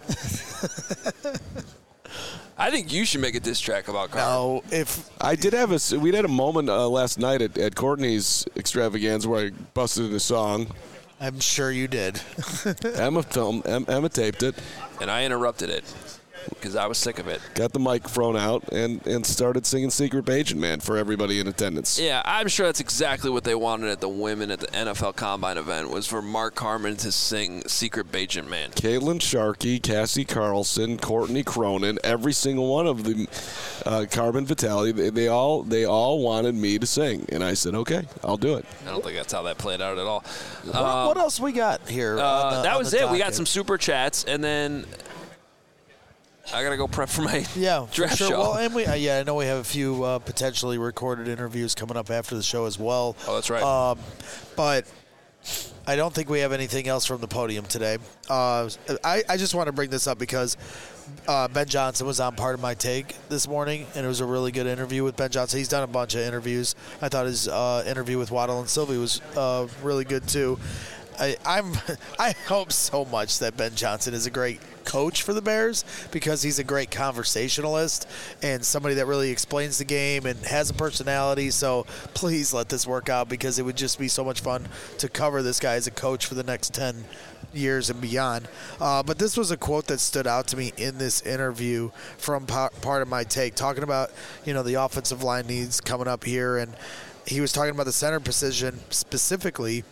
A: I think you should make a diss track about Carl.
B: No, we had a moment last night at Courtney's extravaganza where I busted in a song.
D: I'm sure you did.
B: Emma taped it.
A: And I interrupted it. Because I was sick of it.
B: Got the microphone out and started singing Secret Agent Man for everybody in attendance.
A: Yeah, I'm sure that's exactly what they wanted at the women at the NFL Combine event, was for Mark Harmon to sing Secret Agent Man.
B: Caitlin Sharkey, Cassie Carlson, Courtney Cronin, every single one of the Carbon Vitale, they all wanted me to sing. And I said, okay, I'll do it.
A: I don't think that's how that played out at all.
D: What else we got here?
A: That was it. We got some super chats, and then I got to go prep for my draft show.
D: Well, and I know we have a few potentially recorded interviews coming up after the show as well.
A: Oh, that's right.
D: But I don't think we have anything else from the podium today. I just want to bring this up because Ben Johnson was on Part of My Take this morning, and it was a really good interview with Ben Johnson. He's done a bunch of interviews. I thought his interview with Waddle and Sylvie was really good too. I hope so much that Ben Johnson is a great coach for the Bears because he's a great conversationalist and somebody that really explains the game and has a personality. So please let this work out because it would just be so much fun to cover this guy as a coach for the next 10 years and beyond. But this was a quote that stood out to me in this interview from Part of My Take, talking about, the offensive line needs coming up here. And he was talking about the center position specifically.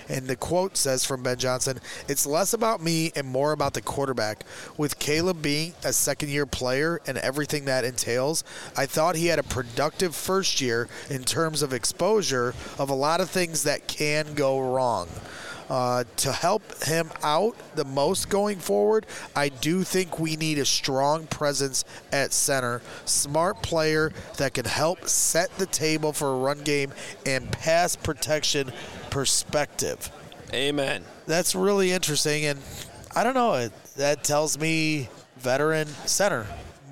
D: And the quote says from Ben Johnson, "It's less about me and more about the quarterback. With Caleb being a second-year player and everything that entails, I thought he had a productive first year in terms of exposure of a lot of things that can go wrong. To help him out the most going forward, I do think we need a strong presence at center, smart player that can help set the table for a run game and pass protection perspective."
A: Amen.
D: That's really interesting, and I don't know. That tells me veteran center.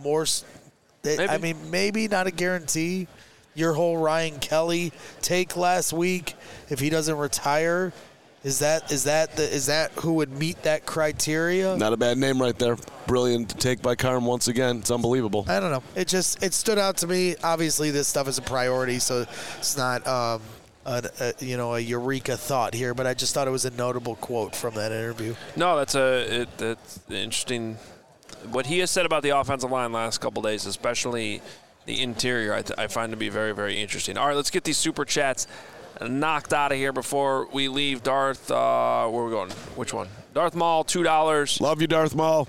D: I mean, maybe not a guarantee. Your whole Ryan Kelly take last week, if he doesn't retire, is that who would meet that criteria?
B: Not a bad name right there. Brilliant take by Carm once again. It's unbelievable.
D: I don't know. It stood out to me. Obviously, this stuff is a priority, so it's not a eureka thought here. But I just thought it was a notable quote from that interview.
A: No, that's interesting. What he has said about the offensive line last couple days, especially the interior, I find to be very, very interesting. All right, let's get these super chats knocked out of here before we leave. Darth, where are we going? Which one? Darth Maul, $2.
B: Love you, Darth Maul.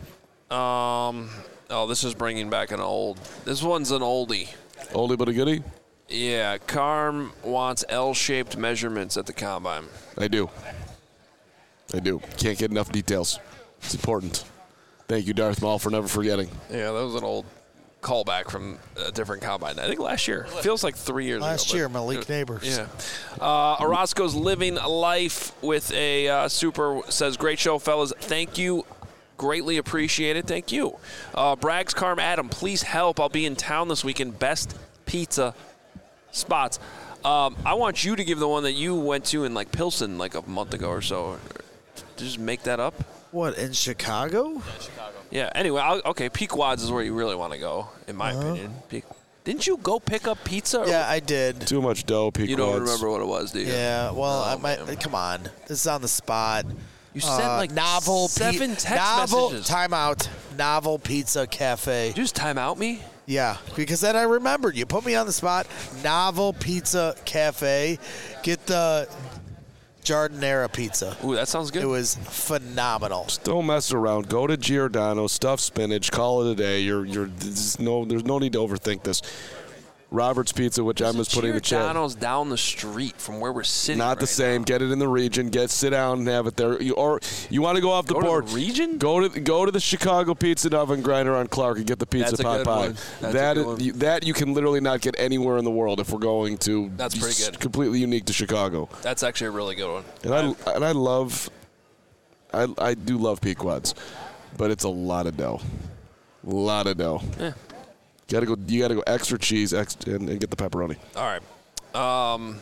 A: This is bringing back this one's an oldie.
B: Oldie but a goodie?
A: Yeah, Carm wants L-shaped measurements at the combine.
B: I do. Can't get enough details. It's important. Thank you, Darth Maul, for never forgetting.
A: Yeah, that was an old callback from a different combine. I think last year. Feels like 3 years ago.
D: Last year, Malik Neighbors.
A: Yeah. Orozco's living life with a super, says, "Great show, fellas. Thank you. Greatly appreciated. Thank you." Bragg's Carm Adam, please help. I'll be in town this weekend. Best pizza spots. I want you to give the one that you went to in Pilsen a month ago or so. Just make that up.
D: What, in Chicago?
L: Yeah, Chicago.
A: Yeah, anyway, Pequod's is where you really want to go, in my opinion. Didn't you go pick up pizza?
D: Yeah, I did.
B: Too much dough, Pequod's.
A: You don't remember what it was, do you?
D: Yeah, well, come on. This is on the spot.
A: You sent
D: novel
A: 7 text messages.
D: Timeout. Novel Pizza Cafe.
A: Did you just time out me?
D: Yeah, because then I remembered. You put me on the spot. Novel Pizza Cafe. Get the Giardinera pizza.
A: Ooh, that sounds good.
D: It was phenomenal.
B: Just don't mess around. Go to Giordano, stuffed spinach, call it a day. There's no need to overthink this. Robert's Pizza, which I'm just putting in the chat.
A: Giordano's down the street from where we're sitting.
B: Not the same.
A: Now.
B: Get it in the region. Sit down and have it there. You want to go off the board?
A: To the region?
B: Go to the Chicago Pizza Oven Grinder on Clark and get the pizza pot pie. That you can literally not get anywhere in the world if we're going to.
A: That's pretty good.
B: Completely unique to Chicago.
A: That's actually a really good one.
B: And I do love Pequod's, but it's a lot of dough.
A: Yeah.
B: You gotta go extra cheese and get the pepperoni.
A: All right. Well,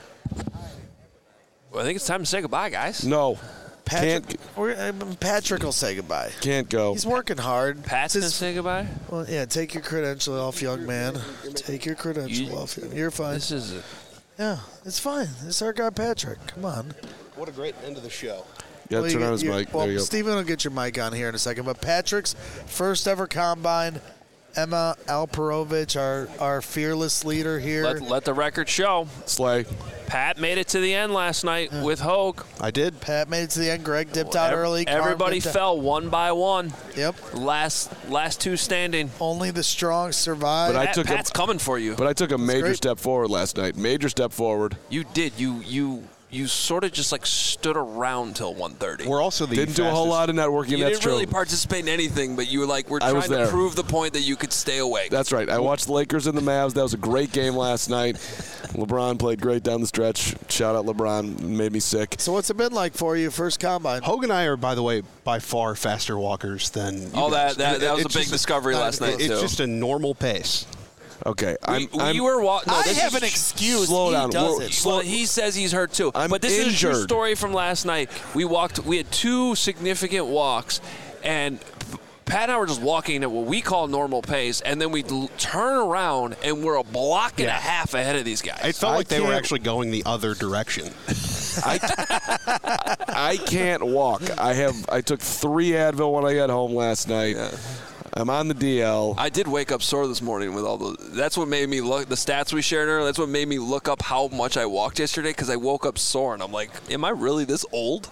A: I think it's time to say goodbye, guys.
B: No.
D: Patrick will say goodbye.
B: Can't go.
D: He's working hard.
A: Pat's going to say goodbye?
D: Well, yeah, take your credential off, young man. Take your credential off. You're fine.
A: This is it.
D: Yeah, it's fine. It's our guy, Patrick. Come on.
Q: What a great end of the show.
B: Yeah, turn on his mic.
D: Well,
B: there you go.
D: Steven will get your mic on here in a second. But Patrick's first ever combine. Emma Alperovich, our fearless leader here.
A: Let the record show.
B: Slay.
A: Pat made it to the end last night with Hogue.
Q: I did.
D: Pat made it to the end. Greg dipped out early.
A: Everybody fell one by one.
D: Yep.
A: Last two standing.
D: Only the strong survive.
B: But
A: Pat's coming for you.
B: But I took a major step forward last night. Major step forward.
A: You did. You sort of just stood around till 1:30.
Q: We're also
B: didn't do a whole lot of networking.
A: You
B: that's
A: didn't really
B: true.
A: participate in anything, but you were trying to prove the point that you could stay awake.
B: That's right. I watched the Lakers and the Mavs. That was a great game last night. LeBron played great down the stretch. Shout out LeBron. Made me sick.
D: So what's it been like for you, first combine?
Q: Hogue and I are, by the way, by far faster walkers than you guys.
A: That was a big discovery last night, too.
Q: It's just a normal pace.
B: Okay,
D: I have an excuse.
B: Slow down.
A: Well, he says he's hurt too.
B: But
A: this
B: injured.
A: is a true story from last night. We had 2 significant walks, and Pat and I were just walking at what we call normal pace, and then we turn around and we're a block and a half ahead of these guys.
Q: It felt like they were actually going the other direction.
B: I can't walk. I took 3 Advil when I got home last night. Yeah. I'm on the DL.
A: I did wake up sore this morning with all the. That's what made me look. The stats we shared earlier. That's what made me look up how much I walked yesterday because I woke up sore and I'm like, am I really this old?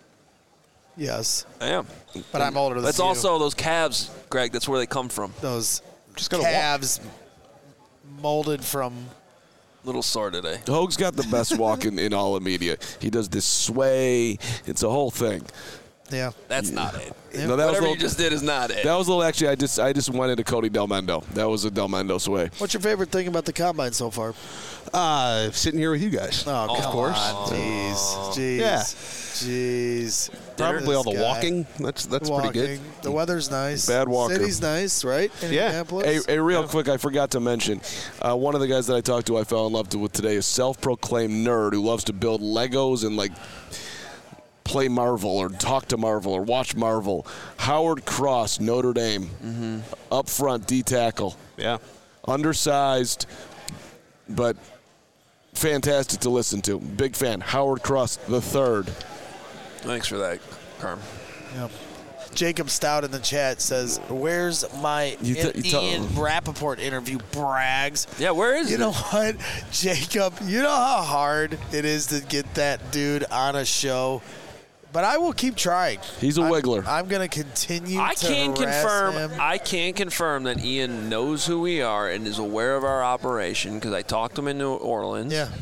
D: Yes.
A: I am.
D: But I'm older than you.
A: That's also those calves, Greg. That's where they come from.
D: Those calves molded from.
A: Little sore today.
B: Hoag's got the best walk in all of media. He does this sway. It's a whole thing.
D: Yeah.
A: That's not it.
B: No, that
A: Whatever you just did is not it.
B: That was a little. Actually, I just went into Cody Del Mendo. That was a Del Mendo sway.
D: What's your favorite thing about the combine so far?
Q: Sitting here with you guys.
D: Oh,
Q: of course.
D: Jeez.
Q: Yeah.
D: Jeez.
Q: Probably all the walking. That's pretty good.
D: The weather's nice.
B: Bad walker.
D: City's nice, right?
B: Hey, real quick, I forgot to mention, one of the guys that I talked to I fell in love with today is self-proclaimed nerd who loves to build Legos and, like, play Marvel or talk to Marvel or watch Marvel. Howard Cross, Notre Dame.
A: Mm-hmm.
B: Up front, D-tackle.
Q: Yeah.
B: Undersized, but fantastic to listen to. Big fan. Howard Cross the third.
A: Thanks for that, Carm.
D: Yep. Jacob Stout in the chat says, where's my Ian Rappaport interview, Braggs?
A: Yeah, where is it?
D: You know what, Jacob? You know how hard it is to get that dude on a show? But I will keep trying.
B: He's a wiggler.
D: I'm going to continue
A: I
D: to
A: can
D: harass
A: confirm.
D: him.
A: I can confirm that Ian knows who we are and is aware of our operation because I talked to him in New Orleans.
D: Yeah.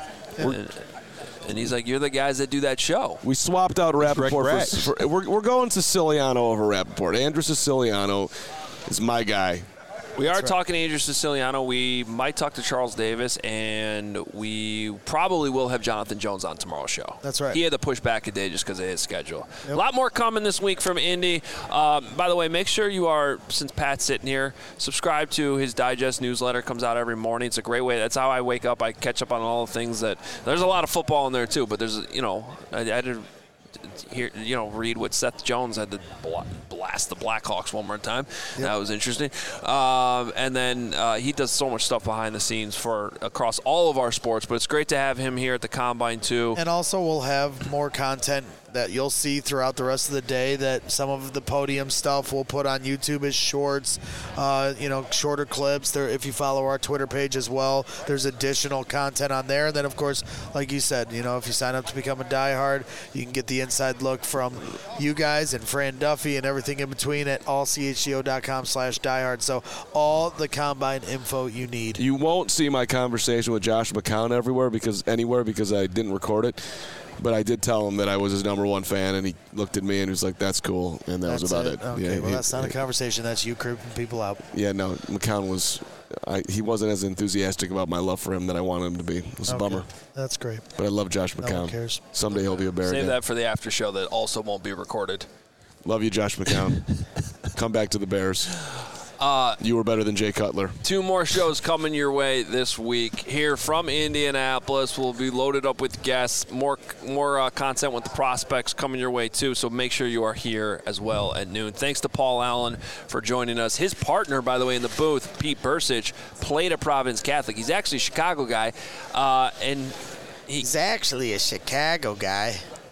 A: And he's like, "You're the guys that do that show."
B: We swapped out Rappaport for we're going Siciliano over Rappaport. Andrew Siciliano is my guy.
A: We are talking to Andrew Siciliano. We might talk to Charles Davis, and we probably will have Jonathan Jones on tomorrow's show.
D: That's right.
A: He had to push back a day just because of his schedule. Yep. A lot more coming this week from Indy. By the way, make sure you are, since Pat's sitting here, subscribe to his Digest newsletter. Comes out every morning. It's a great way. That's how I wake up. I catch up on all the things that – there's a lot of football in there too, but there's, I had to – here, read what Seth Jones had to blast the Blackhawks one more time. Yep. That was interesting. And then he does so much stuff behind the scenes for across all of our sports, but it's great to have him here at the Combine too.
D: And also we'll have more content that you'll see throughout the rest of the day, that some of the podium stuff we'll put on YouTube as shorts, shorter clips. There, if you follow our Twitter page as well, there's additional content on there. And then, of course, like you said, if you sign up to become a diehard, you can get the inside look from you guys and Fran Duffy and everything in between at allchgo.com/diehard. So all the Combine info you need.
B: You won't see my conversation with Josh McCown anywhere because I didn't record it. But I did tell him that I was his number one fan, and he looked at me and he was like, "That's cool," and that's was about it.
D: Okay,
B: yeah,
D: well, that's not a conversation. That's you creeping people out.
B: Yeah, no, McCown was he wasn't as enthusiastic about my love for him that I wanted him to be. It was a bummer.
D: That's great.
B: But I love Josh McCown.
D: No one cares.
B: Someday he'll be a Bear
A: Save
B: again.
A: that for the after show that also won't be recorded.
B: Love you, Josh McCown. Come back to the Bears. You were better than Jay Cutler. 2
A: more shows coming your way this week here from Indianapolis. We'll be loaded up with guests. More content with the prospects coming your way too. So make sure you are here as well at noon. Thanks to Paul Allen for joining us. His partner, by the way, in the booth, Pete Bursich, played at Providence Catholic. He's actually a Chicago guy, and
D: he's actually a Chicago guy.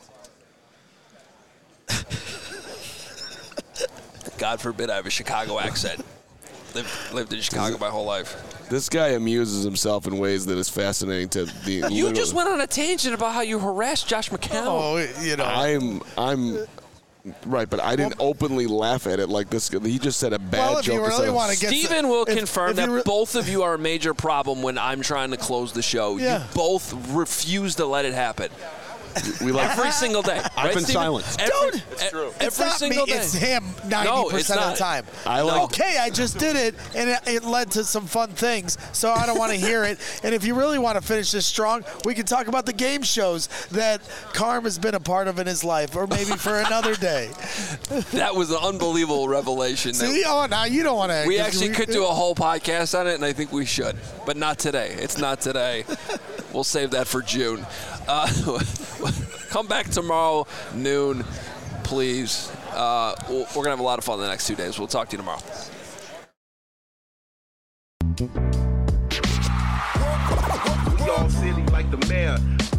A: God forbid I have a Chicago accent. Lived in Chicago my whole life.
B: This guy amuses himself in ways that is fascinating to the.
A: You just went on a tangent about how you harassed Josh McCown.
B: Oh, I'm right, but I didn't openly laugh at it like this. He just said a bad joke.
A: Stephen will confirm that both of you are a major problem when I'm trying to close the show. Yeah. You both refuse to let it happen.
B: We like
A: every single day.
Q: I've been silent.
D: Dude,
A: it's true.
D: It's not me. It's him 90% of the time. Okay, I just did it, and it led to some fun things, so I don't want to hear it. And if you really want to finish this strong, we can talk about the game shows that Carm has been a part of in his life, or maybe for another day.
A: That was an unbelievable revelation.
D: See, now you don't want to.
A: We actually could do a whole podcast on it, and I think we should, but not today. It's not today. We'll save that for June. Come back tomorrow, noon, please. We're going to have a lot of fun the next 2 days. We'll talk to you tomorrow.
R: We all silly like the mayor.